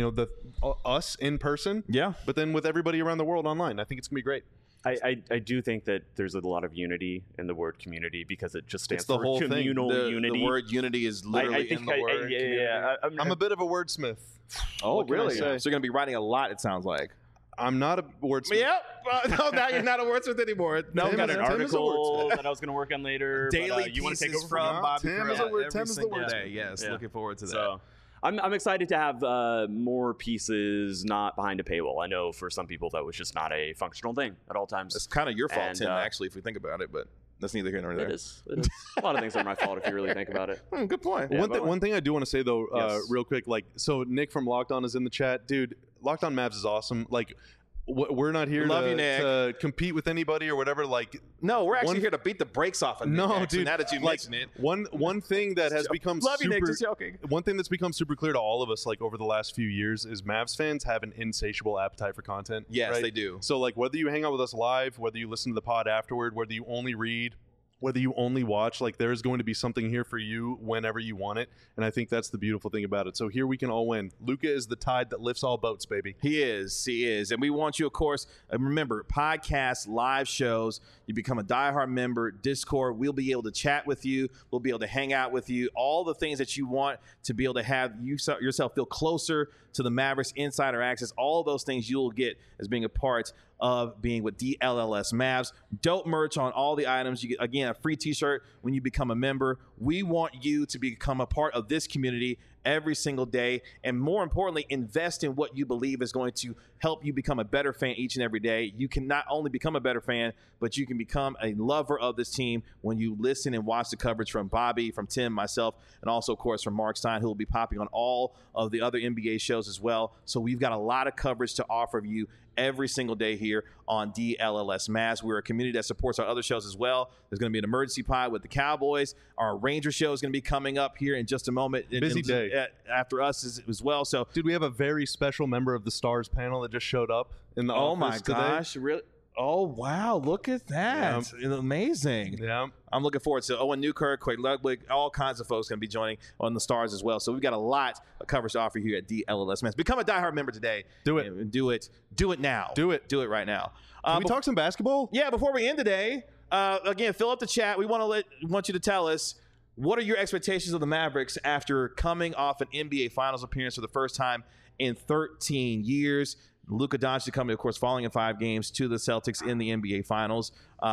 Us in person, yeah, but then with everybody around the world online. I think it's gonna be great. I do think that there's a lot of unity in the word community because it just stands for whole communal thing. unity. The word unity is literally in the word. I'm a bit of a wordsmith. Oh, really? So you're going to be writing a lot, it sounds like. I'm not a wordsmith. Yep. No, now you're not a wordsmith anymore. No, I've got an article that I was going to work on later. Daily you want to take over from Bobby Tim is the wordsmith. Yes, looking forward to that. So, I'm excited to have more pieces not behind a paywall. I know for some people that was just not a functional thing at all times. It's kind of your fault, Tim, actually, if we think about it, but that's neither here nor there. It is. A lot of things are my fault if you really think about it. Good point. Yeah, one thing I do want to say, though, real quick, so Nick from Locked On is in the chat. Dude, Locked On Mavs is awesome. Like, we're not here to compete with anybody or whatever. Like, no, we're actually here to beat the brakes off of Nick. No, dude. Now that you mention it, one thing that has become love you, Nick, just joking. One thing that's become super clear to all of us, like, over the last few years, is Mavs fans have an insatiable appetite for content. Yes, right? they do. So, like, whether you hang out with us live, whether you listen to the pod afterward, whether you only read, whether you only watch, like, there is going to be something here for you whenever you want it. And I think that's the beautiful thing about it. So here we can all win. Luka is the tide that lifts all boats, baby. He is. And we want you, of course, remember, podcasts, live shows, you become a diehard member, Discord, we'll be able to chat with you. We'll be able to hang out with you. All the things that you want to be able to have yourself feel closer to the Mavericks, insider access, all those things you'll get as being a part of being with DLLS Mavs. Dope merch on all the items. You get, again, a free t-shirt when you become a member. We want you to become a part of this community every single day, and more importantly, invest in what you believe is going to help you become a better fan each and every day. You can not only become a better fan, but you can become a lover of this team when you listen and watch the coverage from Bobby, from Tim, myself, and also, of course, from Mark Stein, who will be popping on all of the other NBA shows as well. So we've got a lot of coverage to offer you every single day here on DLLS Mavs. We're a community that supports our other shows as well. There's going to be an emergency pod with the Cowboys. Our Ranger show is going to be coming up here in just a moment. Busy day. After us as well. So, dude, we have a very special member of the Stars panel that just showed up in the office today. Oh, my gosh. Really? Oh, wow. Look at that. Yeah. Amazing. Yeah. I'm looking forward to Owen Newkirk, Quake Ludwig, all kinds of folks going to be joining on the Stars as well. So we've got a lot of coverage to offer here at DLLS Mavs. Become a diehard member today. Do it. Do it. Do it now. Do it. Do it right now. Can we talk some basketball? Yeah, before we end today, again, fill up the chat. We want you to tell us, what are your expectations of the Mavericks after coming off an NBA Finals appearance for the first time in 13 years? Luka Doncic coming, of course, falling in 5 games to the Celtics in the NBA Finals.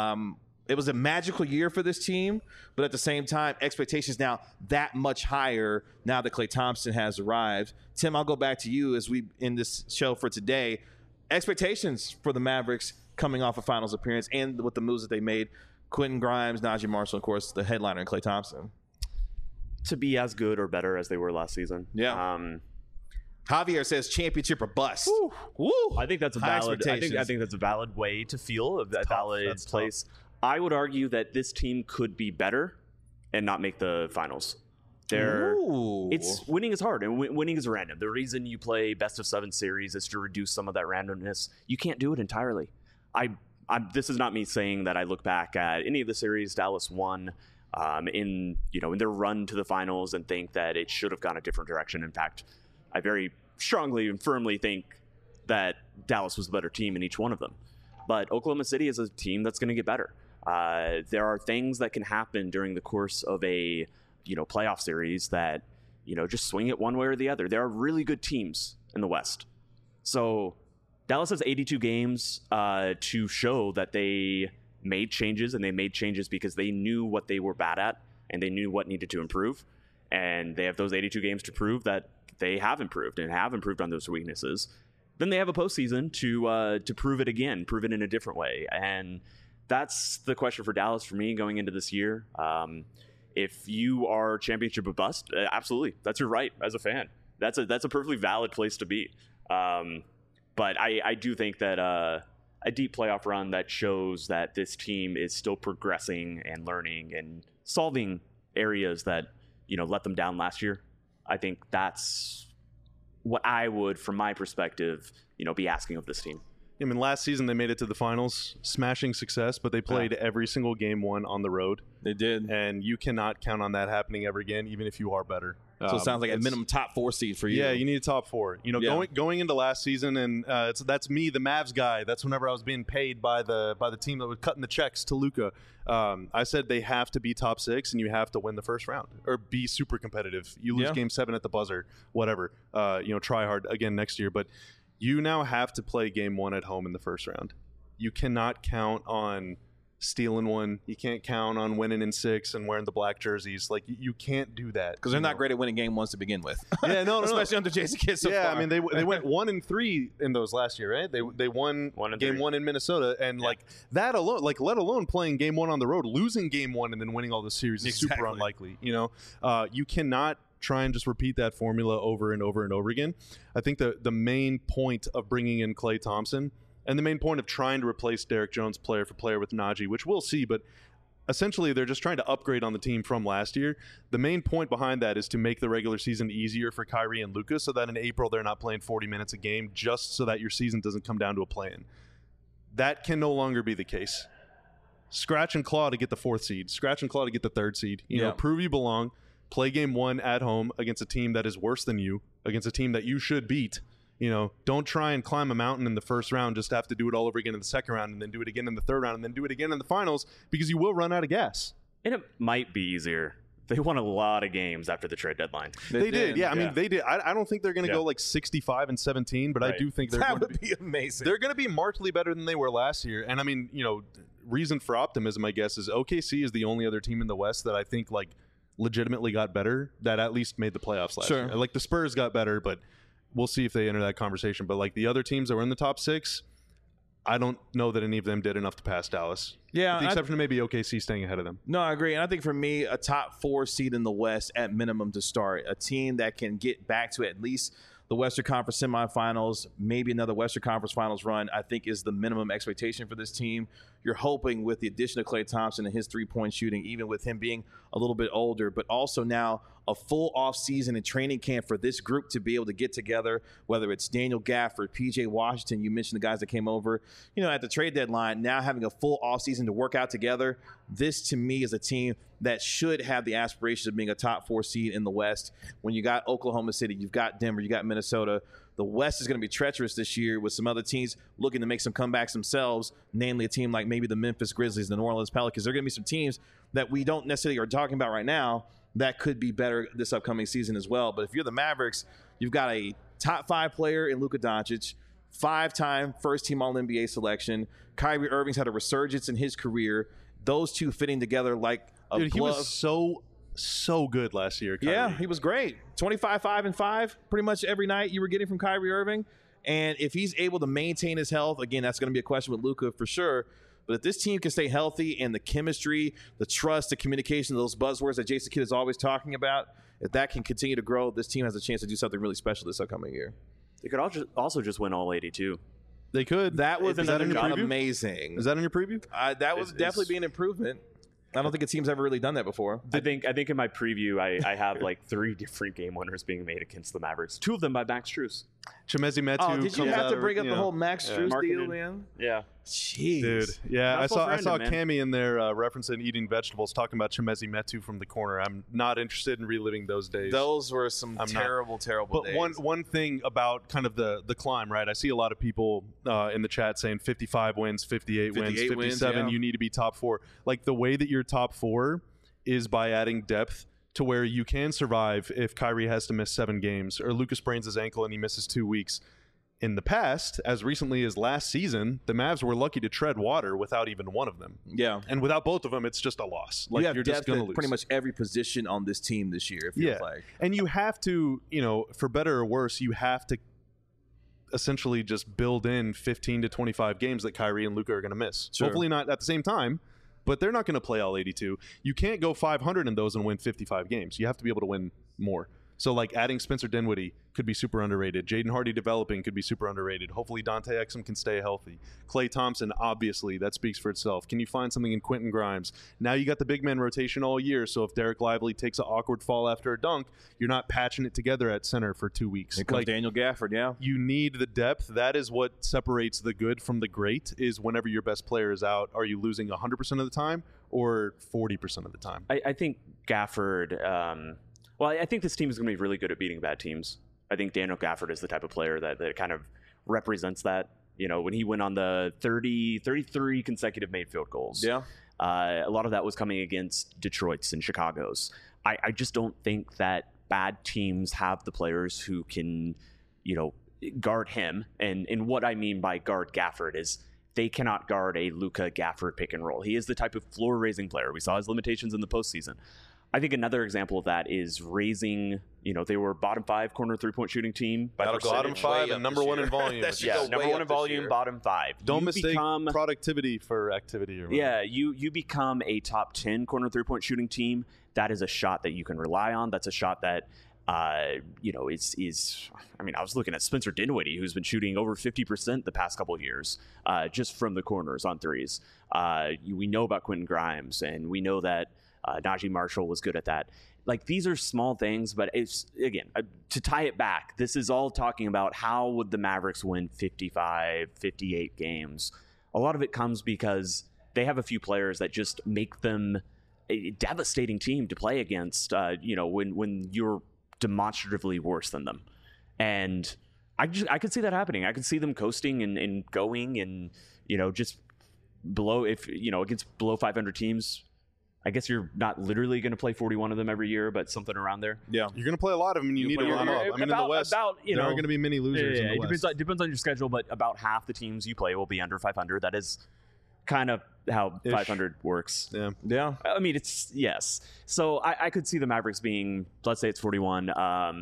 It was a magical year for this team, but at the same time, expectations now that much higher now that Klay Thompson has arrived. Tim, I'll go back to you as we end this show for today. Expectations for the Mavericks coming off a Finals appearance and with the moves that they made. Quentin Grimes, Najee Marshall, of course, the headliner, and Klay Thompson. To be as good or better as they were last season. Yeah. Javier says championship or bust. Woo. Woo. I think that's a valid. I think that's a valid way to feel, a valid place. Tough. I would argue that this team could be better and not make the finals. It's winning is hard and winning is random. The reason you play best of 7 series is to reduce some of that randomness. You can't do it entirely. This is not me saying that I look back at any of the series Dallas won in their run to the finals and think that it should have gone a different direction. In fact, I very strongly and firmly think that Dallas was the better team in each one of them. But Oklahoma City is a team that's going to get better. There are things that can happen during the course of a playoff series that just swing it one way or the other. There are really good teams in the West, so Dallas has 82 games to show that they made changes, and they made changes because they knew what they were bad at and they knew what needed to improve, and they have those 82 games to prove that they have improved and have improved on those weaknesses. Then they have a postseason to prove it again, prove it in a different way, and that's the question for Dallas for me going into this year. If you are championship or bust, absolutely, that's your right as a fan. That's a perfectly valid place to be. But I do think that a deep playoff run that shows that this team is still progressing and learning and solving areas that let them down last year. I think that's what I would, from my perspective, be asking of this team. I mean, last season they made it to the finals, smashing success, but they played every single game one on the road. They did. And you cannot count on that happening ever again, even if you are better. So it sounds like a minimum top 4 seed for you. Yeah, you need a top 4. Going into last season, and that's me, the Mavs guy. That's whenever I was being paid by the team that was cutting the checks to Luka. I said they have to be top 6, and you have to win the first round or be super competitive. You lose Game 7 at the buzzer, whatever. Try hard again next year, but you now have to play Game 1 at home in the first round. You cannot count on stealing one. You can't count on winning in 6 and wearing the black jerseys. Like, you can't do that because they're not great at winning Game 1s to begin with. Yeah, no, especially under Jason Kidd. So far. I mean, they went 1-3 in those last year, right? They won Game 1 in Minnesota, and like that alone, like let alone playing Game 1 on the road, losing Game 1 and then winning all the series is super unlikely. You cannot try and just repeat that formula over and over and over again. I think the main point of bringing in Klay Thompson and the main point of trying to replace Derek Jones player for player with Najee, which we'll see, but essentially they're just trying to upgrade on the team from last year. The main point behind that is to make the regular season easier for Kyrie and Luka so that in April they're not playing 40 minutes a game just so that your season doesn't come down to a play-in. That can no longer be the case. Scratch and claw to get the 4th seed. Scratch and claw to get the 3rd seed. Prove you belong. Play Game 1 at home against a team that is worse than you, against a team that you should beat. Don't try and climb a mountain in the first round just to have to do it all over again in the second round and then do it again in the third round and then do it again in the finals because you will run out of gas. And it might be easier. They won a lot of games after the trade deadline. They did. Yeah, I mean, they did. I don't think they're going to go like 65-17, but I do think that would be amazing. They're going to be markedly better than they were last year. And I mean, reason for optimism, I guess, is OKC is the only other team in the West that I think like legitimately got better that at least made the playoffs last year. Like the Spurs got better, but we'll see if they enter that conversation. But like the other teams that were in the top 6, I don't know that any of them did enough to pass Dallas. Yeah, with the exception of maybe OKC staying ahead of them. No, I agree. And I think for me, a top 4 seed in the West at minimum to start, a team that can get back to at least the Western Conference semifinals, maybe another Western Conference Finals run, I think is the minimum expectation for this team. You're hoping with the addition of Klay Thompson and his 3-point shooting, even with him being a little bit older, but also now a full offseason and training camp for this group to be able to get together, whether it's Daniel Gafford, P.J. Washington, you mentioned the guys that came over, at the trade deadline, now having a full offseason to work out together. This, to me, is a team that should have the aspirations of being a top 4 seed in the West. When you got Oklahoma City, you've got Denver, you got Minnesota. The West is going to be treacherous this year with some other teams looking to make some comebacks themselves, namely a team like maybe the Memphis Grizzlies, the New Orleans Pelicans. There are going to be some teams that we don't necessarily are talking about right now that could be better this upcoming season as well. But if you're the Mavericks, you've got a top 5 player in Luka Doncic, 5-time first-team All-NBA selection. Kyrie Irving's had a resurgence in his career. Those two fitting together like a glove. He was so good last year, Kyrie. Yeah, he was great. 25, 5, and 5 pretty much every night you were getting from Kyrie Irving. And if he's able to maintain his health, again, that's going to be a question with Luka for sure. But if this team can stay healthy and the chemistry, the trust, the communication, those buzzwords that Jason Kidd is always talking about, if that can continue to grow, this team has a chance to do something really special this upcoming year. They could also just win all 82. They could. That would be amazing. Is that in your preview? That would definitely be an improvement. I don't think a team's ever really done that before. I think in my preview, I have like 3 different game winners being made against the Mavericks. 2 of them by Max Strus. Chimezie Metu. Oh, did you have to bring up the whole Max Strus deal, man? Yeah. Jeez. Dude. Yeah, I saw Cammy in there referencing eating vegetables, talking about Chimezie Metu from the corner. I'm not interested in reliving those days. Those were some terrible days. But one thing about kind of the climb, right? I see a lot of people in the chat saying 55 wins, 58 wins, 57, you need to be top 4. Like, the way that you're top 4 is by adding depth to where you can survive if Kyrie has to miss 7 games or Luka sprains his ankle and he misses 2 weeks. In the past, as recently as last season, the Mavs were lucky to tread water without even one of them. Yeah. And without both of them, it's just a loss. Like, you're just going to lose. Pretty much every position on this team this year, it feels like. And you have to, for better or worse, you have to essentially just build in 15 to 25 games that Kyrie and Luka are going to miss. Sure. Hopefully not at the same time, but they're not going to play all 82. You can't go 500 in those and win 55 games. You have to be able to win more. So, like, adding Spencer Dinwiddie could be super underrated. Jaden Hardy developing could be super underrated. Hopefully Dante Exum can stay healthy. Klay Thompson, obviously, that speaks for itself. Can you find something in Quentin Grimes? Now you got the big man rotation all year, so if Derek Lively takes an awkward fall after a dunk, you're not patching it together at center for 2 weeks. Here comes Daniel Gafford, yeah. You need the depth. That is what separates the good from the great, is whenever your best player is out, are you losing 100% of the time or 40% of the time? I think Gafford... Well, I think this team is going to be really good at beating bad teams. I think Daniel Gafford is the type of player that kind of represents that. When he went on the 33 consecutive made field goals. Yeah. A lot of that was coming against Detroit's and Chicago's. I just don't think that bad teams have the players who can, guard him. And what I mean by guard Gafford is they cannot guard a Luka Gafford pick and roll. He is the type of floor-raising player. We saw his limitations in the postseason. I think another example of that is raising, they were bottom 5 corner 3-point shooting team. Bottom 5 and number 1 in volume. Number 1 in volume, bottom 5. Don't mistake productivity for activity. You become a top 10 corner 3-point shooting team. That is a shot that you can rely on. That's a shot that, I was looking at Spencer Dinwiddie, who's been shooting over 50% the past couple of years, just from the corners on threes. We know about Quentin Grimes, and we know that Najee Marshall was good at that. Like, these are small things, but it's, again, to tie it back, this is all talking about how would the Mavericks win 55, 58 games. A lot of it comes because they have a few players that just make them a devastating team to play against, when you're demonstratively worse than them. And I could see that happening. I could see them coasting and going and, just below, against below 500 teams. I guess you're not literally going to play 41 of them every year, but something around there. Yeah, you're going to play a lot of them, and you need to run up. In the West, there aren't going to be many losers in the West. It depends on your schedule, but about half the teams you play will be under 500. That is kind of how 500 works. Yeah. I mean, yes. So I could see the Mavericks being, let's say it's 41,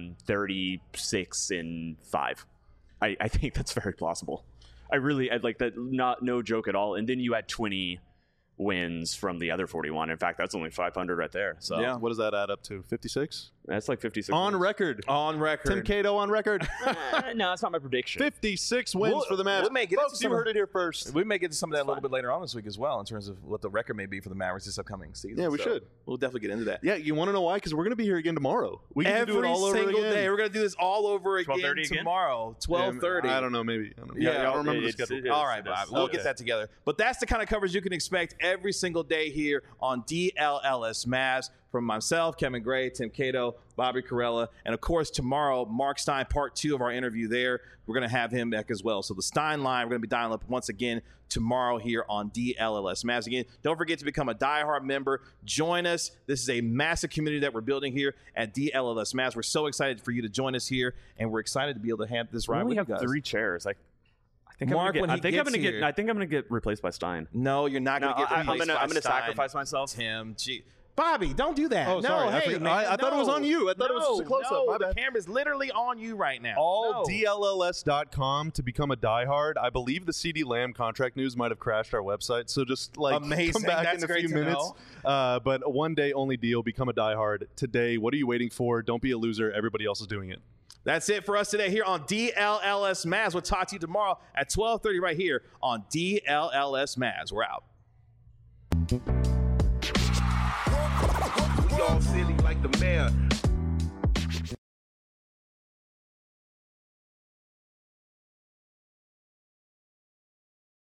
36 and 5. I think that's very plausible. I'd like that. No joke at all. And then you add 20 wins from the other 41. In fact, that's only 500 right there. So yeah, what does that add up to? 56? That's like 56 on wins. record. Tim Cato on record. No, that's not my prediction. 56 wins for the Mavs. Folks, you heard it here first. We may get to some of that a little bit later on this week as well, in terms of what the record may be for the Mavericks this upcoming season. Yeah, we should. We'll definitely get into that. Yeah, you want to know why? Because we're going to be here again tomorrow. We can do it all over again. Every single day. We're going to do this all over again tomorrow. 12:30. I don't know, maybe. Yeah, I don't remember the schedule. All right, Bob. We'll get that together. But that's the kind of coverage you can expect every single day here on DLLS Mavs. From myself, Kevin Gray, Tim Cato, Bobby Karalla, and of course tomorrow, Mark Stein, part 2 of our interview there. We're going to have him back as well. So the Stein line, we're going to be dialing up once again tomorrow here on DLLS Mavs. Again, don't forget to become a diehard member. Join us. This is a massive community that we're building here at DLLS Mavs. We're so excited for you to join us here, and we're excited to be able to have this ride with you guys. We have 3 chairs. I think Mark, I'm going to get replaced by Stein. No, you're not going to get replaced by Stein. I'm going to sacrifice myself. Tim, Bobby, don't do that. Oh, sorry. I thought it was on you. I thought it was just a close-up. No, the camera's literally on you right now. DLLS.com to become a diehard. I believe the CD Lamb contract news might have crashed our website, so just come back in a few minutes. But a one-day-only deal. Become a diehard today. What are you waiting for? Don't be a loser. Everybody else is doing it. That's it for us today here on DLLS Mavs. We'll talk to you tomorrow at 12:30 right here on DLLS Mavs. We're out. All silly like the mayor.